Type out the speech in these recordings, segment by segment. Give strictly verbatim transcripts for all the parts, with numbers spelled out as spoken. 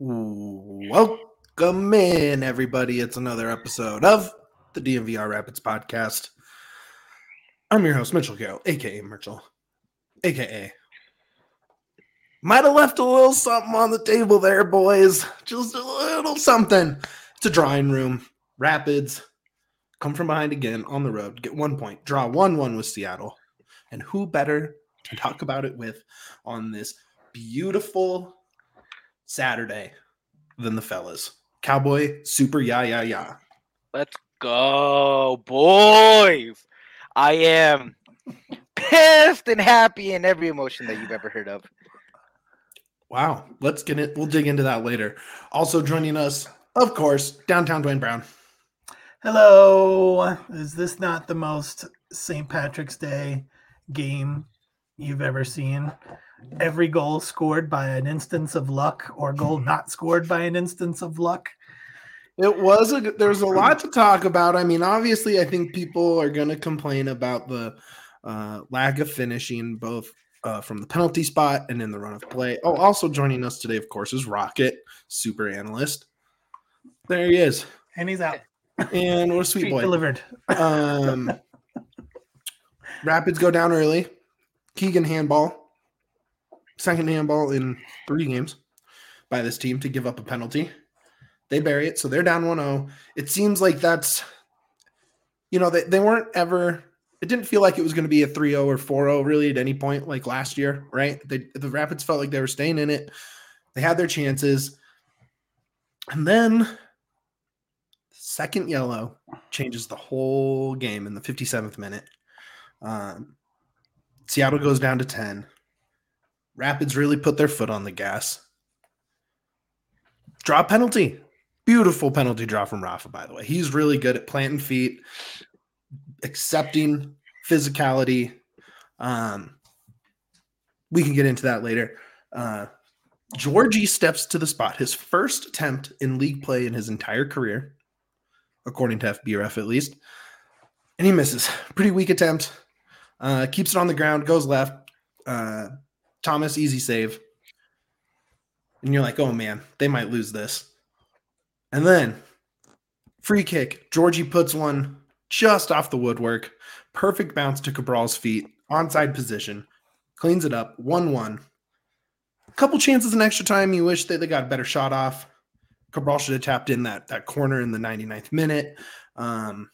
Welcome in, everybody. It's another episode of the D M V R Rapids podcast. I'm your host, Mitchell Carroll, a k a. Mitchell, a k a. Might have left a little something on the table there, boys. Just a little something. It's a drawing room. Rapids come from behind again on the road, get one point, draw one one with Seattle. And who better to talk about it with on this beautiful Saturday than the fellas? Cowboy, super, yeah, yeah, yeah. Let's go, boys. I am pissed and happy in every emotion that you've ever heard of. Wow. Let's get it. We'll dig into that later. Also joining us, of course, downtown Dwayne Brown. Hello. Is this not the most Saint Patrick's Day game you've ever seen? Every goal scored by an instance of luck, or goal not scored by an instance of luck. It was a there's a lot to talk about. I mean, obviously, I think people are going to complain about the uh, lack of finishing, both uh, from the penalty spot and in the run of play. Oh, also joining us today, of course, is Rocket, super analyst. There he is, And he's out. and what a sweet Treat boy. delivered. Um, Rapids go down early. Keegan handball, second handball in three games by this team to give up a penalty. They bury it, so they're down one oh. It seems like that's, you know, they, they weren't ever, it didn't feel like it was going to be a three oh or four oh really at any point like last year, right? They, the Rapids felt like they were staying in it. They had their chances. And then second yellow changes the whole game in the fifty-seventh minute. Um, Seattle goes down to ten. Rapids really put their foot on the gas. Draw penalty. Beautiful penalty draw from Rafa, by the way. He's really good at planting feet, accepting physicality. Um, we can get into that later. Uh, Georgie steps to the spot. His first attempt in league play in his entire career, according to F B R F at least. And he misses. Pretty weak attempt. Uh, keeps it on the ground, goes left. Uh, Thomas, easy save. And you're like, oh, man, they might lose this. And then, free kick. Georgie puts one just off the woodwork. Perfect bounce to Cabral's feet. Onside position. Cleans it up. one one. A couple chances in extra time. You wish that they got a better shot off. Cabral should have tapped in that, that corner in the ninety-ninth minute. Um,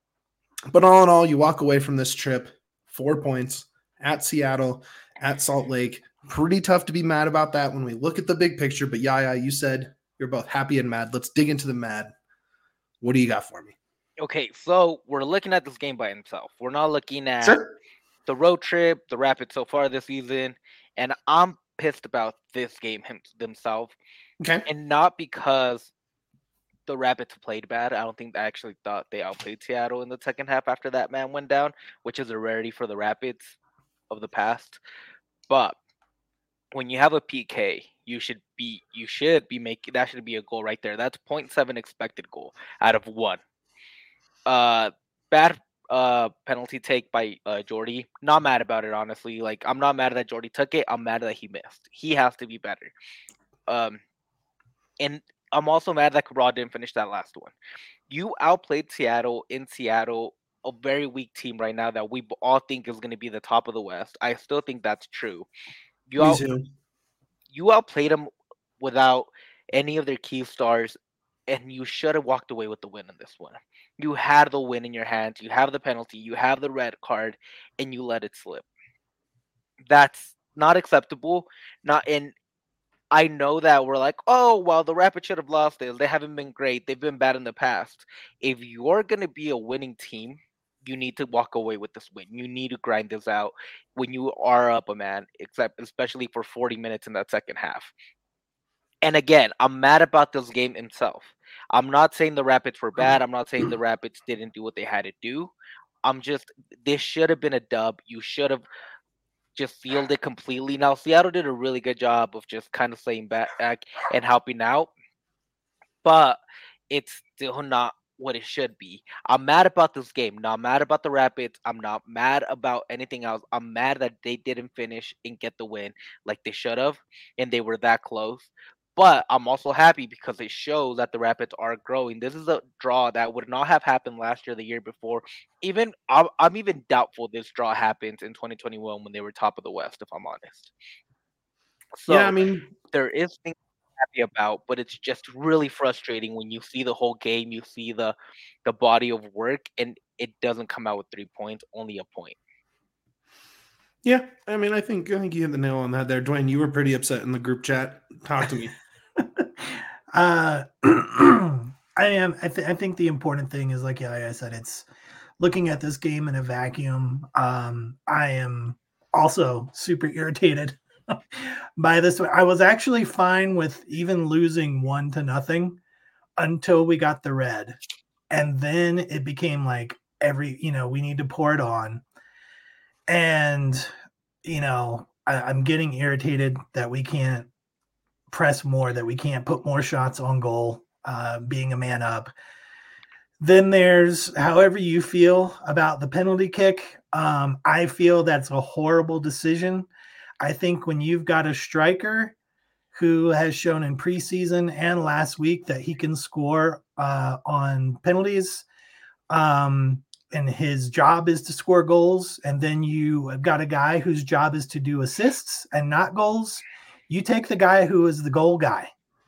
but all in all, you walk away from this trip. Four points at Seattle, at Salt Lake. Pretty tough to be mad about that when we look at the big picture. But, Yaya, you said you're both happy and mad. Let's dig into the mad. What do you got for me? Okay, so we're looking at this game by itself. We're not looking at Sure. the road trip, the Rapids so far this season, and I'm pissed about this game him, themselves. Okay. And not because the Rapids played bad. I don't think I actually thought they outplayed Seattle in the second half after that man went down, which is a rarity for the Rapids of the past. But when you have a P K, you should be you should be making that should be a goal right there. That's zero point seven expected goal out of one. Uh, bad uh penalty take by uh Jordy. Not mad about it, honestly. Like, I'm not mad that Jordy took it. I'm mad that he missed. He has to be better. Um, and I'm also mad that Cabral didn't finish that last one. You outplayed Seattle in Seattle, a very weak team right now that we all think is going to be the top of the West. I still think that's true. You Me out, too. you outplayed them without any of their key stars, and you should have walked away with the win in this one. You had the win in your hands. You have the penalty. You have the red card, and you let it slip. That's not acceptable. Not in. I know that we're like, oh, well, the Rapids should have lost this. They haven't been great. They've been bad in the past. If you're going to be a winning team, you need to walk away with this win. You need to grind this out when you are up a man, except especially for forty minutes in that second half. And again, I'm mad about this game himself. I'm not saying the Rapids were bad. I'm not saying the Rapids didn't do what they had to do. I'm just, this should have been a dub. You should have just sealed it completely. Now, Seattle did a really good job of just kind of staying back and helping out, but it's still not what it should be. I'm mad about this game. Not mad about the Rapids. I'm not mad about anything else. I'm mad that they didn't finish and get the win like they should have, and they were that close. But I'm also happy because it shows that the Rapids are growing. This is a draw that would not have happened last year, the year before. Even I'm, I'm even doubtful this draw happens in twenty twenty-one when they were top of the West, if I'm honest. So Yeah, I mean, there is things happy about, but it's just really frustrating when you see the whole game, you see the the body of work, and it doesn't come out with three points, only a point. yeah, I mean, I think I think you hit the nail on that there, Dwayne. You were pretty upset in the group chat. Talk to me. uh, I am. I, th- I think the important thing is, like, yeah, like I said, it's looking at this game in a vacuum. Um, I am also super irritated by this. I was actually fine with even losing one to nothing until we got the red, and then it became like every, you know, we need to pour it on. And, you know, I, I'm getting irritated that we can't press more, that we can't put more shots on goal, uh, being a man up. Then there's however you feel about the penalty kick. Um, I feel that's a horrible decision. I think when you've got a striker who has shown in preseason and last week that he can score uh, on penalties, um, and his job is to score goals, and then you have got a guy whose job is to do assists and not goals, you take the guy who is the goal guy.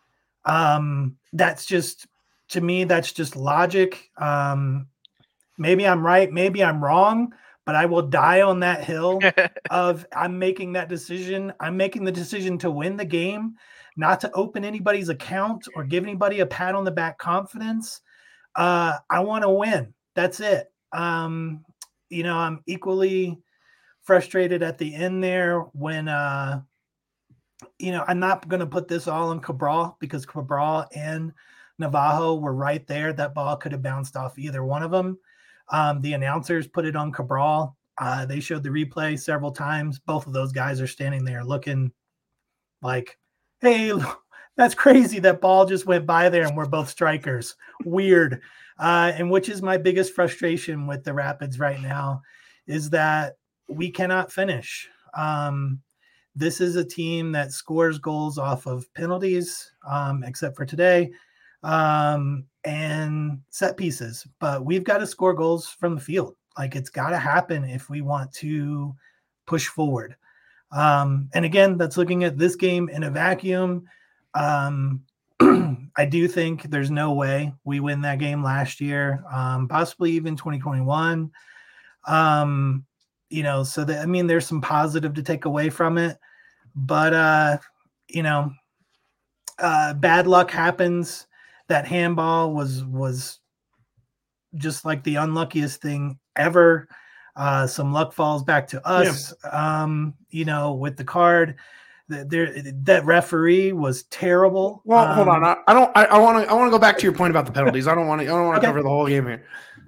Um, that's just, to me, that's just logic. Um, maybe I'm right, maybe I'm wrong, but I will die on that hill of I'm making that decision. I'm making the decision to win the game, not to open anybody's account or give anybody a pat on the back confidence. Uh, I want to win. That's it. Um, you know, I'm equally frustrated at the end there when, uh, you know, I'm not going to put this all on Cabral because Cabral and Navajo were right there. That ball could have bounced off either one of them. Um, the announcers put it on Cabral. Uh, they showed the replay several times. Both of those guys are standing there looking like, hey, that's crazy. That ball just went by there and we're both strikers. Weird. Uh, and which is my biggest frustration with the Rapids right now is that we cannot finish. Um, this is a team that scores goals off of penalties, um, except for today, um, and set pieces. But we've got to score goals from the field. Like, it's got to happen if we want to push forward. Um, and again, that's looking at this game in a vacuum. Um, I do think there's no way we win that game last year, um, possibly even twenty twenty-one. Um, you know, so that, I mean, there's some positive to take away from it, but, uh, you know, uh, bad luck happens. That handball was, was just like the unluckiest thing ever. Uh, some luck falls back to us, yeah. um, you know, with the card. There, that referee was terrible. Well, um, hold on. I, I don't. I want to. I want to go back to your point about the penalties. I don't want to. I don't want to okay. cover the whole game here.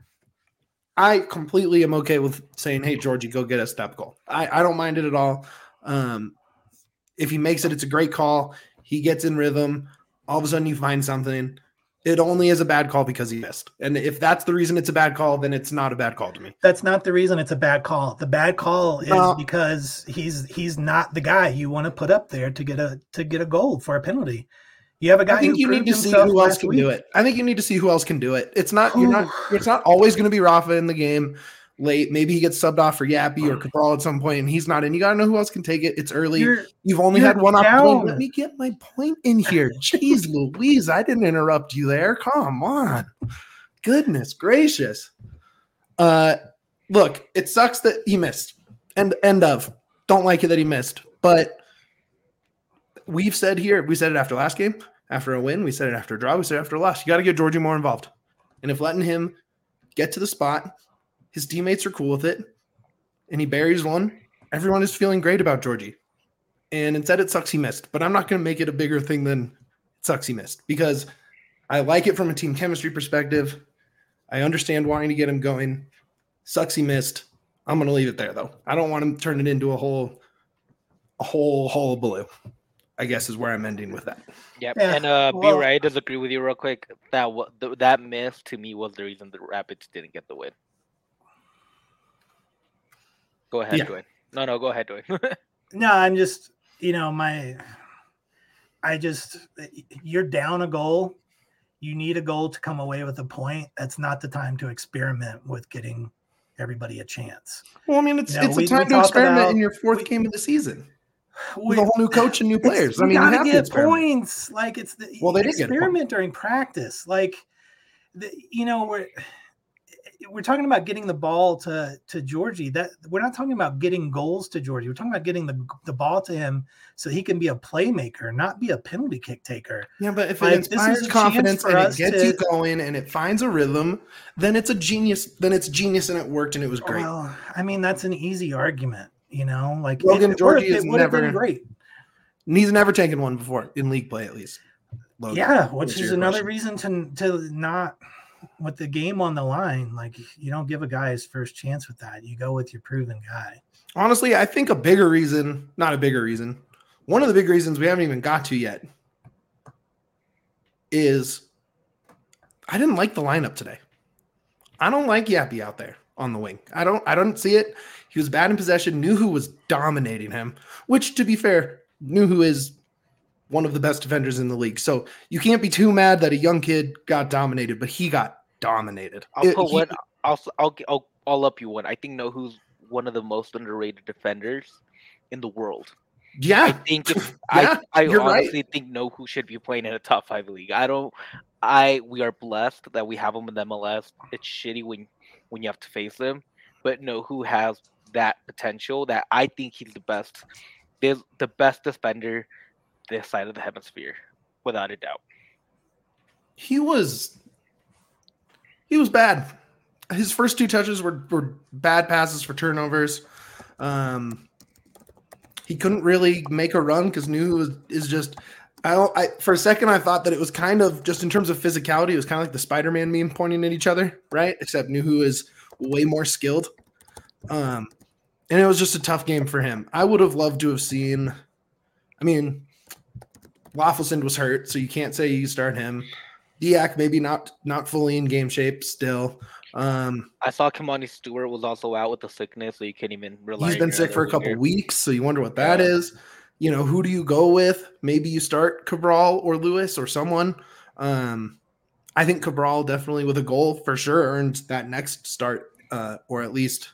I completely am okay with saying, "Hey, Georgie, go get a step goal." I, I don't mind it at all. Um, if he makes it, it's a great call. He gets in rhythm. All of a sudden, you find something. It only is a bad call because he missed. And if that's the reason it's a bad call, then it's not a bad call to me. That's not the reason it's a bad call. The bad call is uh, because he's he's not the guy you want to put up there to get a to get a goal for a penalty. You have a guy. I think who you need to see who else can week. do it. I think you need to see who else can do it. It's not you're not it's not always going to be Rafa in the game late. Maybe he gets subbed off for Yappy or Cabral at some point and he's not in. You got to know who else can take it. It's early. You're, You've only had one opportunity. Let me get my point in here. Jeez Louise, I didn't interrupt you there. Come on. Goodness gracious. Uh, look, it sucks that he missed. End, end of. Don't like it that he missed. But we've said here, we said it after last game, after a win, we said it after a draw, we said it after a loss. You got to get Georgie more involved. And if letting him get to the spot, his teammates are cool with it, and he buries one, everyone is feeling great about Georgie. And instead it sucks he missed. But I'm not going to make it a bigger thing than it sucks he missed because I like it from a team chemistry perspective. I understand wanting to get him going. Sucks he missed. I'm going to leave it there, though. I don't want him to turn it into a whole, a whole hullabaloo, I guess is where I'm ending with that. Yep. Yeah. And uh, well, B-Ray does agree with you real quick. That w- that miss, to me, was the reason the Rapids didn't get the win. Go ahead, yeah. Dwayne. No, no, go ahead, Dwayne. No, I'm just, you know, my, I just, you're down a goal. You need a goal to come away with a point. That's not the time to experiment with getting everybody a chance. Well, I mean, it's You know, it's we- a time we to talk experiment about- in your fourth we- game of the season We, with a whole new coach and new players. It's, I mean, you gotta have to get experiment. points. Like it's the Well, they did get experiment during practice. Like, the, you know, we're we're talking about getting the ball to to Georgie. That we're not talking about getting goals to Georgie. We're talking about getting the the ball to him so he can be a playmaker, not be a penalty kick taker. Yeah, but if Like, it this is inspires a chance confidence for and it us gets to- you going and it finds a rhythm, then it's a genius. Then it's genius and it worked and it was great. Well, I mean, that's an easy argument, you know. Like Logan it, Georgie it is would have been never- great. And he's never taken one before in league play, at least. Logan, Yeah, to which answer is your another question. reason to to not with the game on the line. Like you don't give a guy his first chance with that. You go with your proven guy. Honestly, I think a bigger reason, not a bigger reason, one of the big reasons we haven't even got to yet is I didn't like the lineup today. I don't like Yappy out there on the wing. I don't I don't see it. He was bad in possession. Nuhu was dominating him, which, to be fair, Nuhu is one of the best defenders in the league. So you can't be too mad that a young kid got dominated, but he got dominated. I'll It- put he- one. I'll I'll I'll I'll up you one. I think know who's one of the most underrated defenders in the world. I yeah, think if, Yeah, I I you're right. honestly think know who should be playing in a top five league. I don't. I we are blessed that we have him in the M L S. It's shitty when when you have to face him, but know who has that potential. That I think he's the best. There's the best defender this side of the hemisphere, without a doubt. he was he was bad. His first two touches were, were bad passes for turnovers. Um, he couldn't really make a run because Nuhu was is just. I, don't- I for a second I thought that it was kind of just in terms of physicality, it was kind of like the Spider-Man meme pointing at each other, right? Except Nuhu is way more skilled. Um, and it was just a tough game for him. I would have loved to have seen. I mean, Wafflesend was hurt, so you can't say you start him. Diak maybe not not fully in game shape still. Um, I saw Kimani Stewart was also out with the sickness, so you can't even rely. he's on been your sick other for a couple winger. weeks, so you wonder what that Yeah. is. You know, who do you go with? Maybe you start Cabral or Lewis or someone. Um, I think Cabral definitely with a goal for sure earned that next start, uh, or at least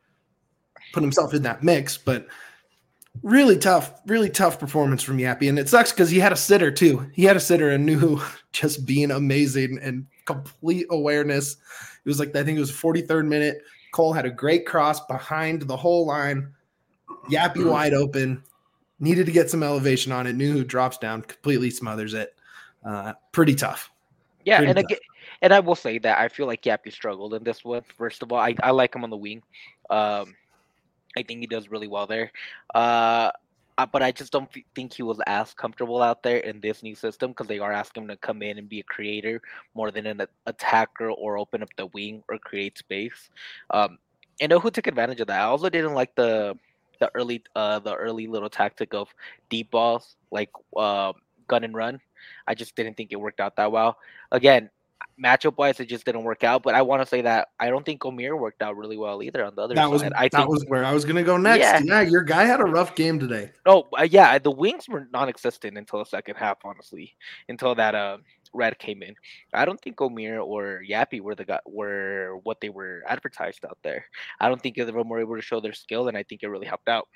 put himself in that mix. But really tough, really tough performance from Yappy. And it sucks because he had a sitter too. He had a sitter and knew just being amazing and complete awareness. It was like, I think it was forty-third minute. Cole had a great cross behind the whole line. Yappy wide open. Needed to get some elevation on it. Knew who drops down, completely smothers it. Uh, pretty tough. Yeah, Pretty and tough. again, and I will say that I feel like Yappy struggled in this one. First of all, I, I like him on the wing. Um, I think he does really well there. Uh, uh, but I just don't f- think he was as comfortable out there in this new system because they are asking him to come in and be a creator more than an a- attacker or open up the wing or create space. Um, and know who took advantage of that? I also didn't like the the early uh the early little tactic of deep balls like uh, gun and run. I just didn't think it worked out that well. Again, matchup wise, it just didn't work out. But I want to say that I don't think Omir worked out really well either on the other That side. was I that think was where I was gonna go next. Yeah. Yeah, your guy had a rough game today. oh uh, yeah, the wings were non-existent until the second half. Honestly, until that uh red came in. I don't think Omir or Yappy were the guy were what they were advertised out there. I don't think either of them were able to show their skill, and I think it really helped out.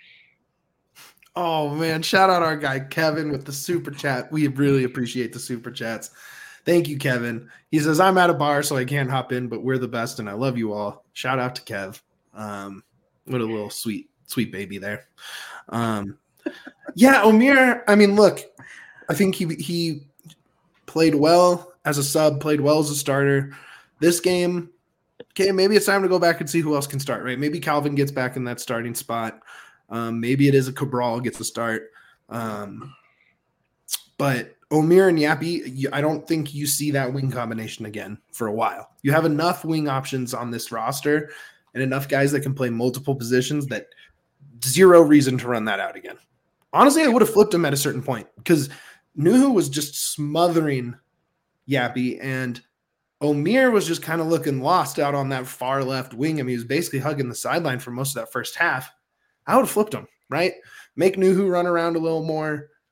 Oh man, shout out our guy Kevin with the super chat. We really appreciate the super chats. Thank you, Kevin. He says, I'm at a bar, so I can't hop in, but we're the best and I love you all. Shout out to Kev. Um, what a little sweet, sweet baby there. Um, yeah, Omir, I mean, look, I think he he played well as a sub, played well as a starter. This game, okay, maybe it's time to go back and see who else can start, right? Maybe Calvin gets back in that starting spot. Um, maybe it is a Cabral gets a start. Um, but Omir and Yappy, you- I don't think you see that wing combination again for a while. You have enough wing options on this roster and enough guys that can play multiple positions that zero reason to run that out again. Honestly, I would have flipped him at a certain point because Nuhu was just smothering Yappy and Omir was just kind of looking lost out on that far left wing. I mean, he was basically hugging the sideline for most of that first half. I would have flipped him, right? Make Nuhu run around a little more.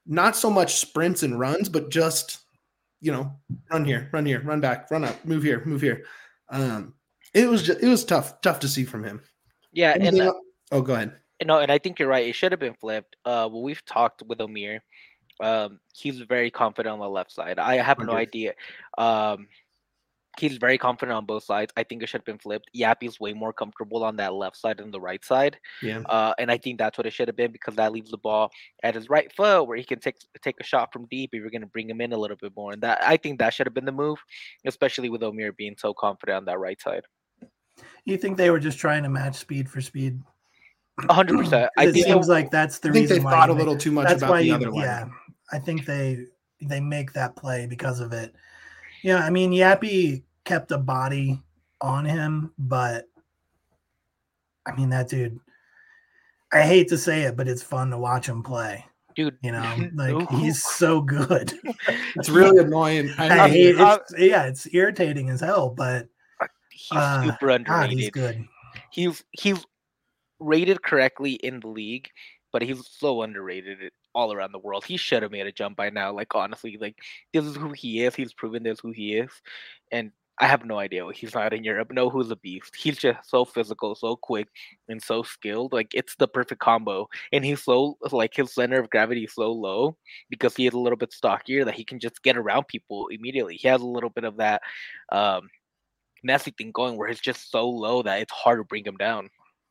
not so much sprints and runs, but just, you know, run here, run here, run back, run up, move here, move here. Um, it was just, it was tough, tough to see from him. Yeah, Anything and uh, else? Oh, go ahead. no, and I think you're right. It should have been flipped. Uh, well, we've talked with Omir. Um, he's very confident on the left side. I have no Okay. idea. Um, he's very confident on both sides. I think it should have been flipped. Yappy's way more comfortable on that left side than the right side. Yeah. Uh, and I think that's what it should have been, because that leaves the ball at his right foot where he can take take a shot from deep if you're going to bring him in a little bit more. And that I think that should have been the move, especially with Omir being so confident on that right side. You think they were just trying to match speed for speed? A hundred percent. I It think seems it- like that's the I think reason they why thought you a make- little too much that's about why the you, other one. yeah, I think they they make that play because of it. Yeah, I mean, Yappy kept a body on him, but I mean, that dude, I hate to say it, but it's fun to watch him play. dude, You know, like no. he's so good. It's really annoying. I I mean, hate, uh, it's, yeah, it's irritating as hell, but he's uh, super God, underrated. he's good. He's he's rated correctly in the league, but he's so underrated all around the world. He should have made a jump by now. Like, honestly, like, this is who he is. He's proven this who he is, and I have no idea what he's not in Europe. No, who's a beast. He's just so physical, so quick, and so skilled. Like, it's the perfect combo. And he's so, like, his center of gravity is so low because he is a little bit stockier that he can just get around people immediately. He has a little bit of that um, Messi thing going where he's just so low that it's hard to bring him down.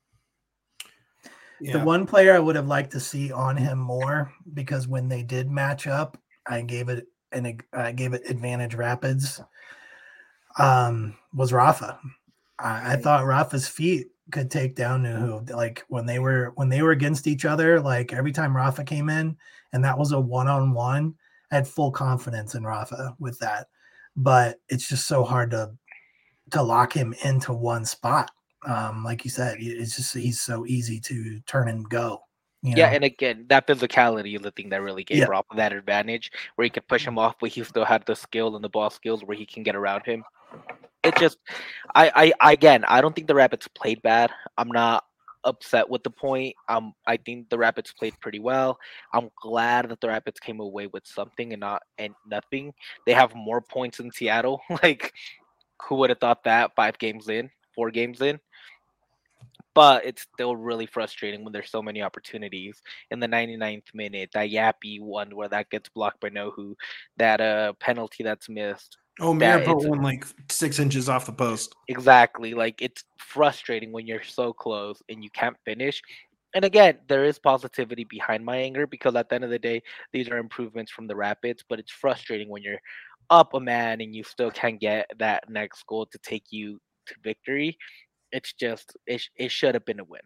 yeah. The one player I would have liked to see on him more, because when they did match up, I gave it an I gave it advantage Rapids. Um, was Rafa. I, I thought Rafa's feet could take down Nuhu. Like when they were when they were against each other, like every time Rafa came in and that was a one on one, I had full confidence in Rafa with that. But it's just so hard to to lock him into one spot. Um, like you said, it's just he's so easy to turn and go. You Yeah, know? and again, that physicality is the thing that really gave Yeah. Rafa that advantage, where he could push him off, but he still had the skill and the ball skills where he can get around him. It just, I, I, again, I don't think the Rapids played bad. I'm not upset with the point. Um, I think the Rapids played pretty well. I'm glad that the Rapids came away with something and not and nothing. They have more points in Seattle. Like, who would have thought that? Five games in, four games in. But it's still really frustrating when there's so many opportunities. In the ninety-ninth minute, that Yappy one where that gets blocked by Nohu, that uh penalty that's missed. Oh, that Mir put it's- one like six inches off the post. Exactly. Like, it's frustrating when you're so close and you can't finish. And again, there is positivity behind my anger, because at the end of the day, these are improvements from the Rapids, but it's frustrating when you're up a man and you still can't get that next goal to take you to victory. It's just, it, it should have been a win.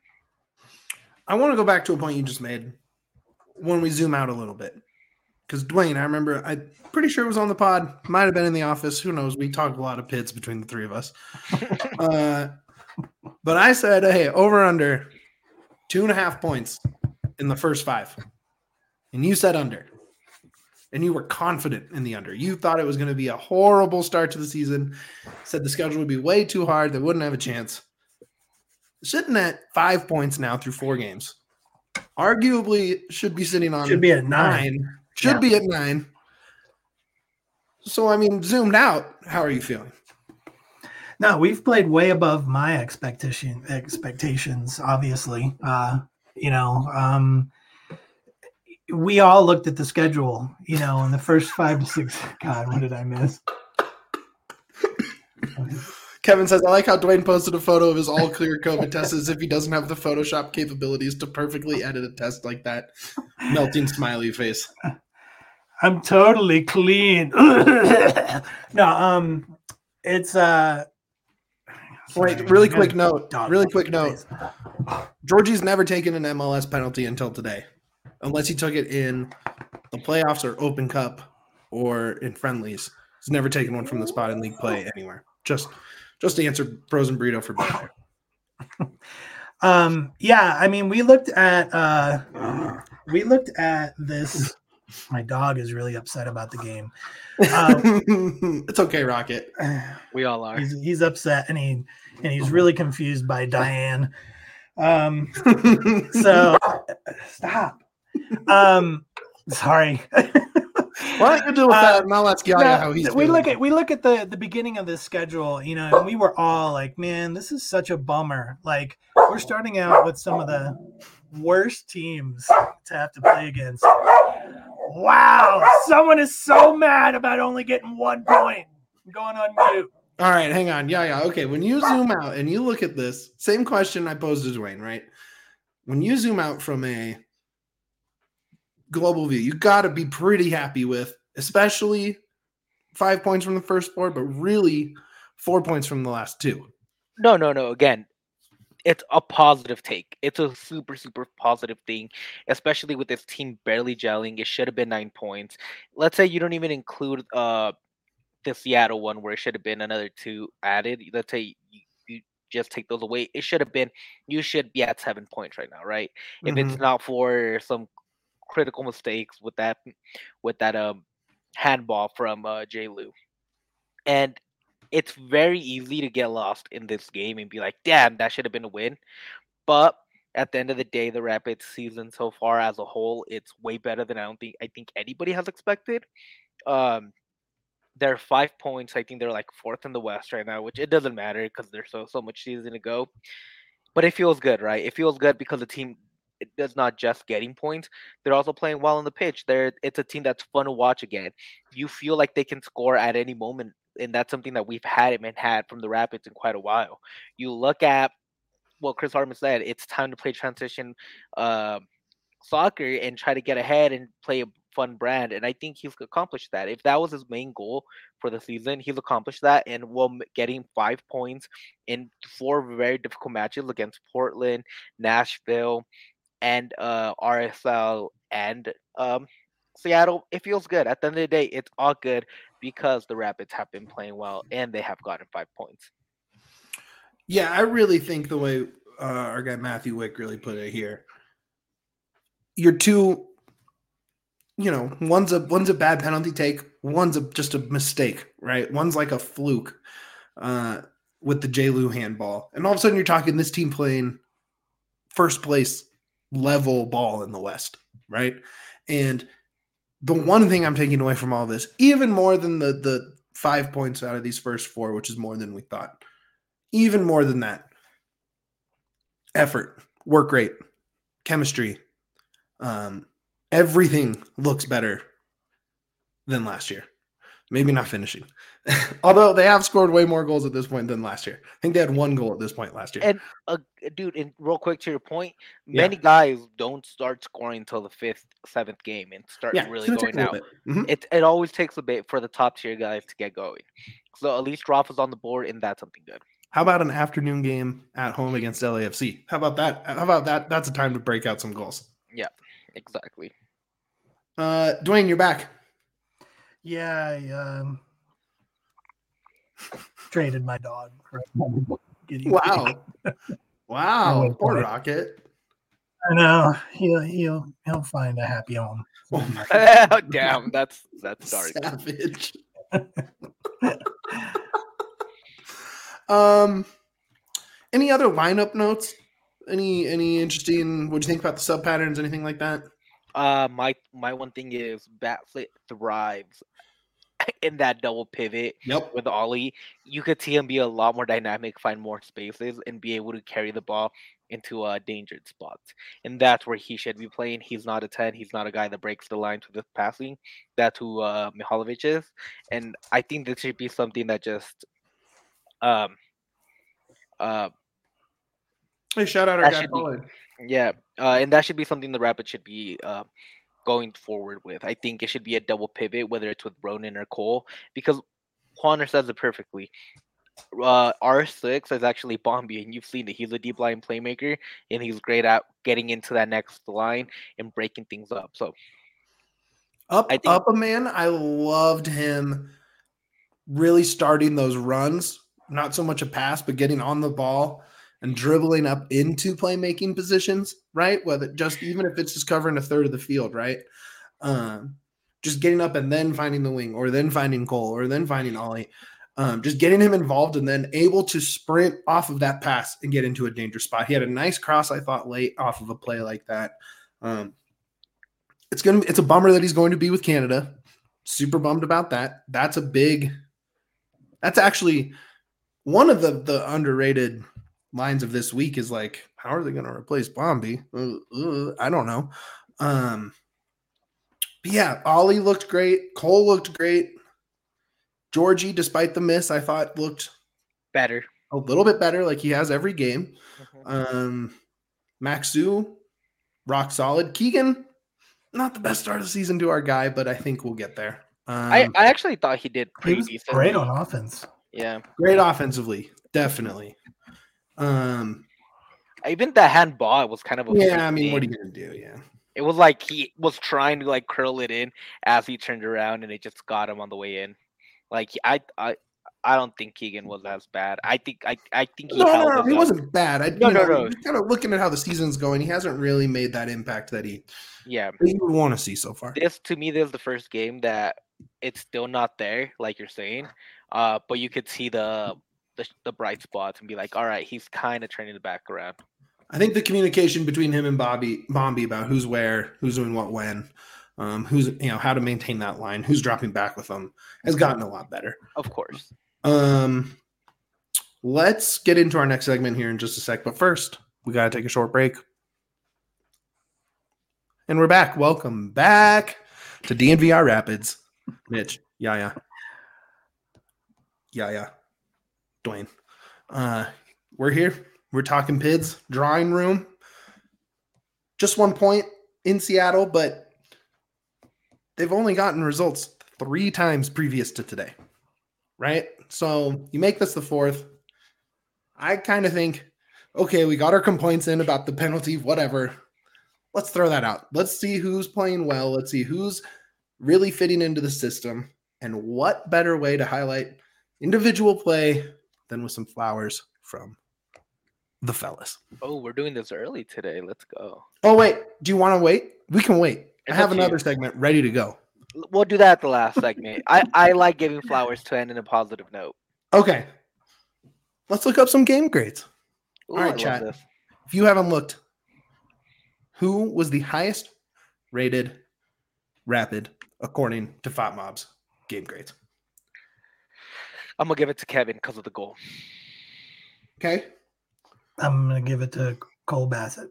I want to go back to a point you just made when we zoom out a little bit. Because Dwayne, I remember, I'm pretty sure it was on the pod, might have been in the office. Who knows? We talked a lot of pits between the three of us. uh, but I said, hey, over under two and a half points in the first five. And you said under. And you were confident in the under. You thought it was going to be a horrible start to the season. Said the schedule would be way too hard. They wouldn't have a chance. Sitting at five points now through four games. Arguably should be sitting on Should be at nine. Should Yeah. be at nine. So, I mean, zoomed out, how are you feeling? No, we've played way above my expectation expectations, obviously. Uh, you know, um, we all looked at the schedule, you know, in the first five to six. God, what did I miss? Kevin says, I like how Dwayne posted a photo of his all clear COVID test as if he doesn't have the Photoshop capabilities to perfectly edit a test like that. Melting smiley face. I'm totally clean. no, um, it's uh. Wait, sorry, really I got quick a note. dog Really in quick my note. face. Georgie's never taken an M L S penalty until today, unless he took it in the playoffs or Open Cup or in friendlies. He's never taken one from the spot in league play anywhere. Just, just to answer Frozen Burrito for better. Um, yeah, I mean, we looked at uh, we looked at this. My dog is really upset about the game. Um, It's okay, Rocket. We all are. he's he's upset and he and he's really confused by Diane. Um, so stop. Um, Sorry. Why don't you deal with Uh, that? And I'll ask Yaya Yeah, how he's we feeling. look at we look at the the beginning of this schedule, you know, and we were all like, man, this is such a bummer. Like, we're starting out with some of the worst teams to have to play against. Wow, someone is so mad about only getting one point. I'm going on mute. All right, hang on. Yeah, yeah. Okay, when you zoom out and you look at this, same question I posed to Dwayne, right? When you zoom out from a global view, you got to be pretty happy with, especially five points from the first four, but really four points from the last two. No, no, no. Again, it's a positive take. It's a super, super positive thing, especially with this team barely gelling. It should have been nine points. Let's say you don't even include uh the Seattle one where it should have been another two added. Let's say you, you just take those away. It should have been, you should be at seven points right now, right? If Mhm. it's not for some critical mistakes with that, with that um handball from uh, J. Lou. And it's very easy to get lost in this game and be like, damn, that should have been a win. But at the end of the day, the Rapids season so far as a whole, it's way better than I don't think I think anybody has expected. Um, they're five points. I think they're like fourth in the West right now, which it doesn't matter because there's so so much season to go. But it feels good, right? It feels good because the team it does not just getting points; they're also playing well on the pitch. They're it's a team that's fun to watch again. You feel like they can score at any moment, and that's something that we've had and had from the Rapids in quite a while. You look at what Chris Hartman said; it's time to play transition uh, soccer and try to get ahead and play a fun brand. And I think he's accomplished that. If that was his main goal for the season, he's accomplished that. And while getting five points in four very difficult matches against Portland, Nashville, and uh, R S L and um, Seattle, it feels good. At the end of the day, it's all good because the Rapids have been playing well and they have gotten five points. Yeah, I really think the way uh, our guy Matthew Wick really put it here, you're two, you know, one's a one's a bad penalty take, one's a, just a mistake, right? One's like a fluke uh, with the J. Lou handball, and all of a sudden you're talking this team playing first place level ball in the West, right? And the one thing I'm taking away from all this, even more than the the five points out of these first four, which is more than we thought, even more than that, effort, work rate, chemistry, um, everything looks better than last year. Maybe not finishing. Although they have scored way more goals at this point than last year. I think they had one goal at this point last year. And uh, dude, and real quick to your point, many yeah. guys don't start scoring until the fifth, seventh game and start yeah, really going out. Mm-hmm. It it always takes a bit for the top tier guys to get going. So at least Rafa's on the board, and that's something good. How about an afternoon game at home against L A F C? How about that? How about that? That's a time to break out some goals. Yeah, exactly. Uh, Dwayne, you're back. Yeah, I um, traded my dog. For wow. wow. Poor point. Rocket. I know. He'll he'll he'll find a happy home. Oh, damn, that's that's dark. Savage. um any other lineup notes? Any any interesting what do you think about the sub patterns, anything like that? Uh my my one thing is Batflit thrives in that double pivot yep. with Ollie. You could see him be a lot more dynamic, find more spaces, and be able to carry the ball into uh, dangerous spots. And that's where he should be playing. He's not a ten. He's not a guy that breaks the lines with his passing. That's who uh, Mihalovic is. And I think this should be something that just um uh hey, shout out our guy Pollard. Yeah, uh, and that should be something the Rapids should be uh, going forward with. I think it should be a double pivot, whether it's with Ronan or Cole, because Juaner says it perfectly. Uh, R six is actually Bombi, and you've seen it. He's a deep line playmaker, and he's great at getting into that next line and breaking things up. So, up, I think, up a man. I loved him really starting those runs. Not so much a pass, but getting on the ball and dribbling up into playmaking positions, right? Whether just even if it's just covering a third of the field, right? Um, just getting up and then finding the wing, or then finding Cole, or then finding Ollie. Um, just getting him involved and then able to sprint off of that pass and get into a dangerous spot. He had a nice cross, I thought, late off of a play like that. Um, it's gonna it's a bummer that he's going to be with Canada. Super bummed about that. That's a big. That's actually one of the the underrated lines of this week is like, how are they going to replace Bombi? Uh, uh, I don't know. Um, but yeah, Ollie looked great. Cole looked great. Georgie, despite the miss, I thought looked better, a little bit better, like he has every game. Mm-hmm. Um, Maxu, rock solid. Keegan, not the best start of the season to our guy, but I think we'll get there. Um, I, I actually thought he did pretty he was decent. Great on offense. Yeah, great offensively, definitely. Um, even the handball was kind of a yeah. I mean, game. what are you gonna do? Yeah, it was like he was trying to like curl it in as he turned around, and it just got him on the way in. Like I I I don't think Keegan was as bad. I think I I think he no, held no, no, his he own. wasn't bad. I, No, you no, know, no. just kind of looking at how the season's going, he hasn't really made that impact that he Yeah, that you would want to see so far. this to me, this is the first game that it's still not there, like you're saying. Uh, but you could see the the, the bright spots and be like, all right, he's kind of turning it back around. I think the communication between him and Bobby Bombi about who's where, who's doing what when, um, who's you know how to maintain that line, who's dropping back with them, has gotten a lot better. Of course. Um, let's get into our next segment here in just a sec, but first we gotta take a short break, and we're back. Welcome back to D N V R Rapids. Mitch, yeah, yeah, yeah, yeah. Dwayne, uh, we're here. We're talking P I Ds, drawing room. Just one point in Seattle, but they've only gotten results three times previous to today, right? So you make this the fourth. I kind of think, okay, we got our complaints in about the penalty, whatever. Let's throw that out. Let's see who's playing well. Let's see who's really fitting into the system. And what better way to highlight individual play than with some flowers from the fellas. Oh, we're doing this early today. Let's go. Oh, wait. Do you want to wait? We can wait. It's I have up to another you. segment ready to go. We'll do that at the last segment. I, I like giving flowers to end in a positive note. Okay. Let's look up some game grades. Ooh, All I right, love chat. this. If you haven't looked, who was the highest rated Rapid according to FotMob's game grades? I'm going to give it to Kevin because of the goal. Okay. I'm going to give it to Cole Bassett.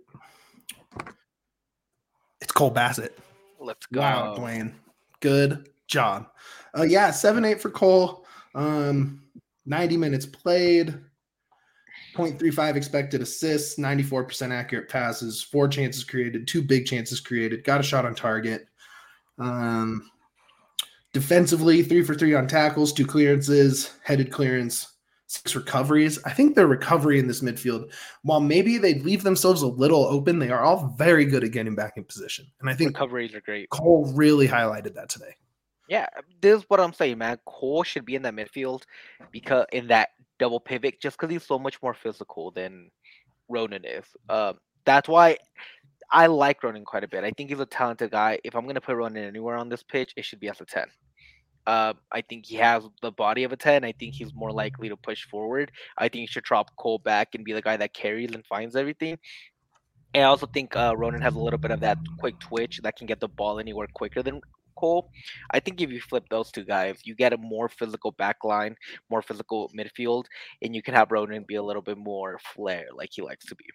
It's Cole Bassett. Let's go. Wow, Dwayne. Good job. Uh, yeah, seven eight for Cole. Um, ninety minutes played. point three five expected assists. ninety-four percent accurate passes. Four chances created. Two big chances created. Got a shot on target. Um, defensively, three for three on tackles. Two clearances. Headed clearance. Six recoveries. I think their recovery in this midfield, while maybe they leave themselves a little open, they are all very good at getting back in position. And I think Recoveries are great. Cole really highlighted that today. Yeah, this is what I'm saying, man. Cole should be in that midfield because in that double pivot, just because he's so much more physical than Ronan is. Um, that's why I like Ronan quite a bit. I think he's a talented guy. If I'm gonna put Ronan anywhere on this pitch, it should be as a ten. Uh, I think he has the body of a ten. I think he's more likely to push forward. I think you should drop Cole back and be the guy that carries and finds everything. And I also think uh, Ronan has a little bit of that quick twitch that can get the ball anywhere quicker than Cole. I think if you flip those two guys, you get a more physical back line, more physical midfield, and you can have Ronan be a little bit more flair like he likes to be.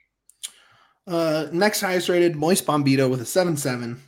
Uh, next highest rated, Moist Bombito with a seven seven.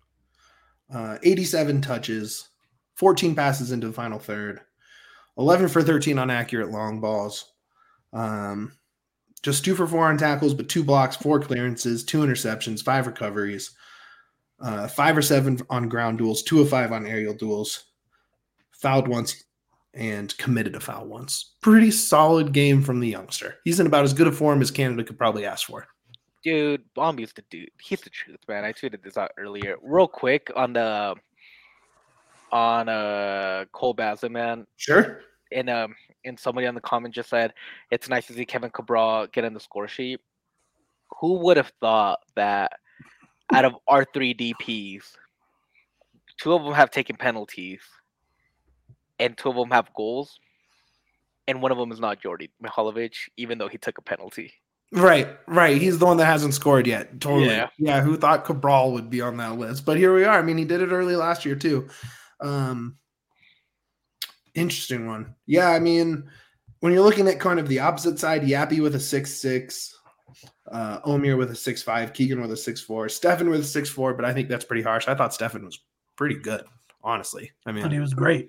Uh, eighty-seven touches. fourteen passes into the final third. eleven for thirteen on accurate long balls. Um, just two for four on tackles, but two blocks, four clearances, two interceptions, five recoveries. Uh, five or seven on ground duels, two of five on aerial duels, fouled once, and committed a foul once. Pretty solid game from the youngster. He's in about as good a form as Canada could probably ask for. Dude, Bombi's the dude. He's the truth, man. I tweeted this out earlier. Real quick on the on uh Cole Bassett, man. Sure. And um and somebody on the comment just said it's nice to see Kevin Cabral get in the score sheet. Who would have thought that out of our three D Ps, two of them have taken penalties, and two of them have goals, and one of them is not Jordy Mihalovic, even though he took a penalty. Right, right. He's the one that hasn't scored yet. Totally. Yeah. Yeah, who thought Cabral would be on that list? But here we are. I mean, he did it early last year too. Um, interesting one. Yeah, I mean, when you're looking at kind of the opposite side, Yappy with a six six, uh, Omir with a six five, Keegan with a six four, Stefan with a six four, but I think that's pretty harsh. I thought Stefan was pretty good, honestly. I mean, But he was great.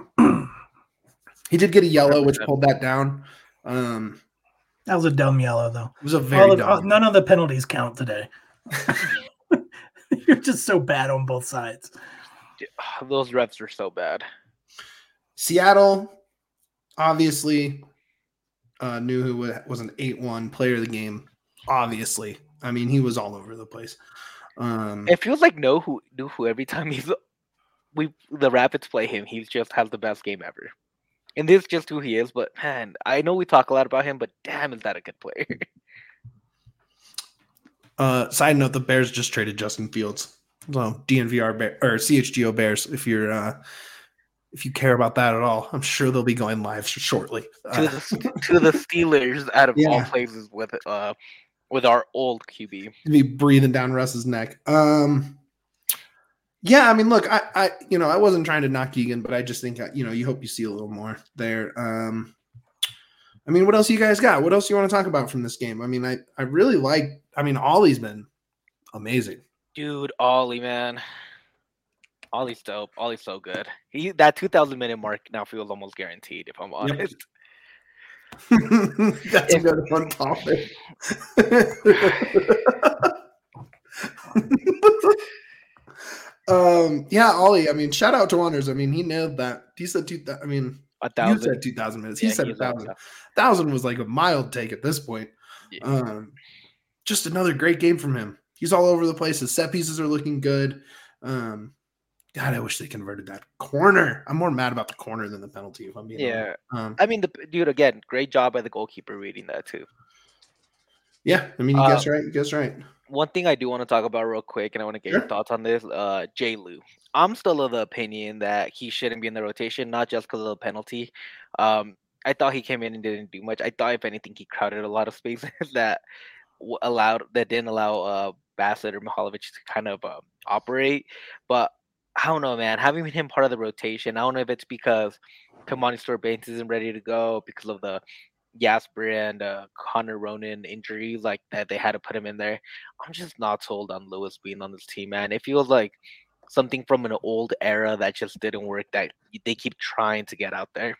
he did get a yellow, which pulled that down. Um, That was a dumb yellow, though. it was a very All of, dumb all- none of the penalties count today. You're just so bad on both sides. Those refs are so bad. Seattle, obviously, uh, knew who was an eight one player of the game. Obviously, I mean, he was all over the place. Um, It feels like no who knew who every time he's we the Rapids play him, he just has the best game ever. And this is just who he is, but man, I know we talk a lot about him, but damn, is that a good player? uh, side note: the Bears just traded Justin Fields. So D N V R Bear, or C H G O Bears, if you're uh, if you care about that at all, I'm sure they'll be going live shortly. to Uh, the to the Steelers out of Yeah. all places with uh with our old Q B. be breathing down Russ's neck. Um, yeah, I mean, look, I, I, you know, I wasn't trying to knock Keegan, but I just think, uh, you know, you hope you see a little more there. Um, I mean, what else you guys got? What else you want to talk about from this game? I mean, I, I really like. I mean, Ollie's been amazing. Dude, Ollie, man. Ollie's dope. Ollie's so good. He that two thousand minute mark now feels almost guaranteed, if I'm honest. Got some good fun topic. um, yeah, Ollie. I mean, shout out to Wonders. I mean, he nailed that. He said two. I mean, A you thousand. said two thousand minutes. He Yeah, said a he's all thousand. about- Thousand was like a mild take at this point. Yeah. Um, just another great game from him. He's all over the place. His set pieces are looking good. Um, God, I wish they converted that corner. I'm more mad about the corner than the penalty. If I'm being Yeah. honest. Um, I mean, the dude again, great job by the goalkeeper reading that too. yeah. I mean, you Uh, guess right. You guess right. One thing I do want to talk about real quick, and I want to get Sure. your thoughts on this. Uh, J. Lou. I'm still of the opinion that he shouldn't be in the rotation, not just because of the penalty. Um, I thought he came in and didn't do much. I thought, if anything, he crowded a lot of spaces that w- allowed that didn't allow uh, Bassett or Mihalovic to kind of um, operate. But I don't know, man. Having him part of the rotation, I don't know if it's because Kamani Store-Baines isn't ready to go because of the Jasper and uh, Connor Ronan injuries, like that they had to put him in there. I'm just not sold on Lewis being on this team, man. It feels like something from an old era that just didn't work that they keep trying to get out there.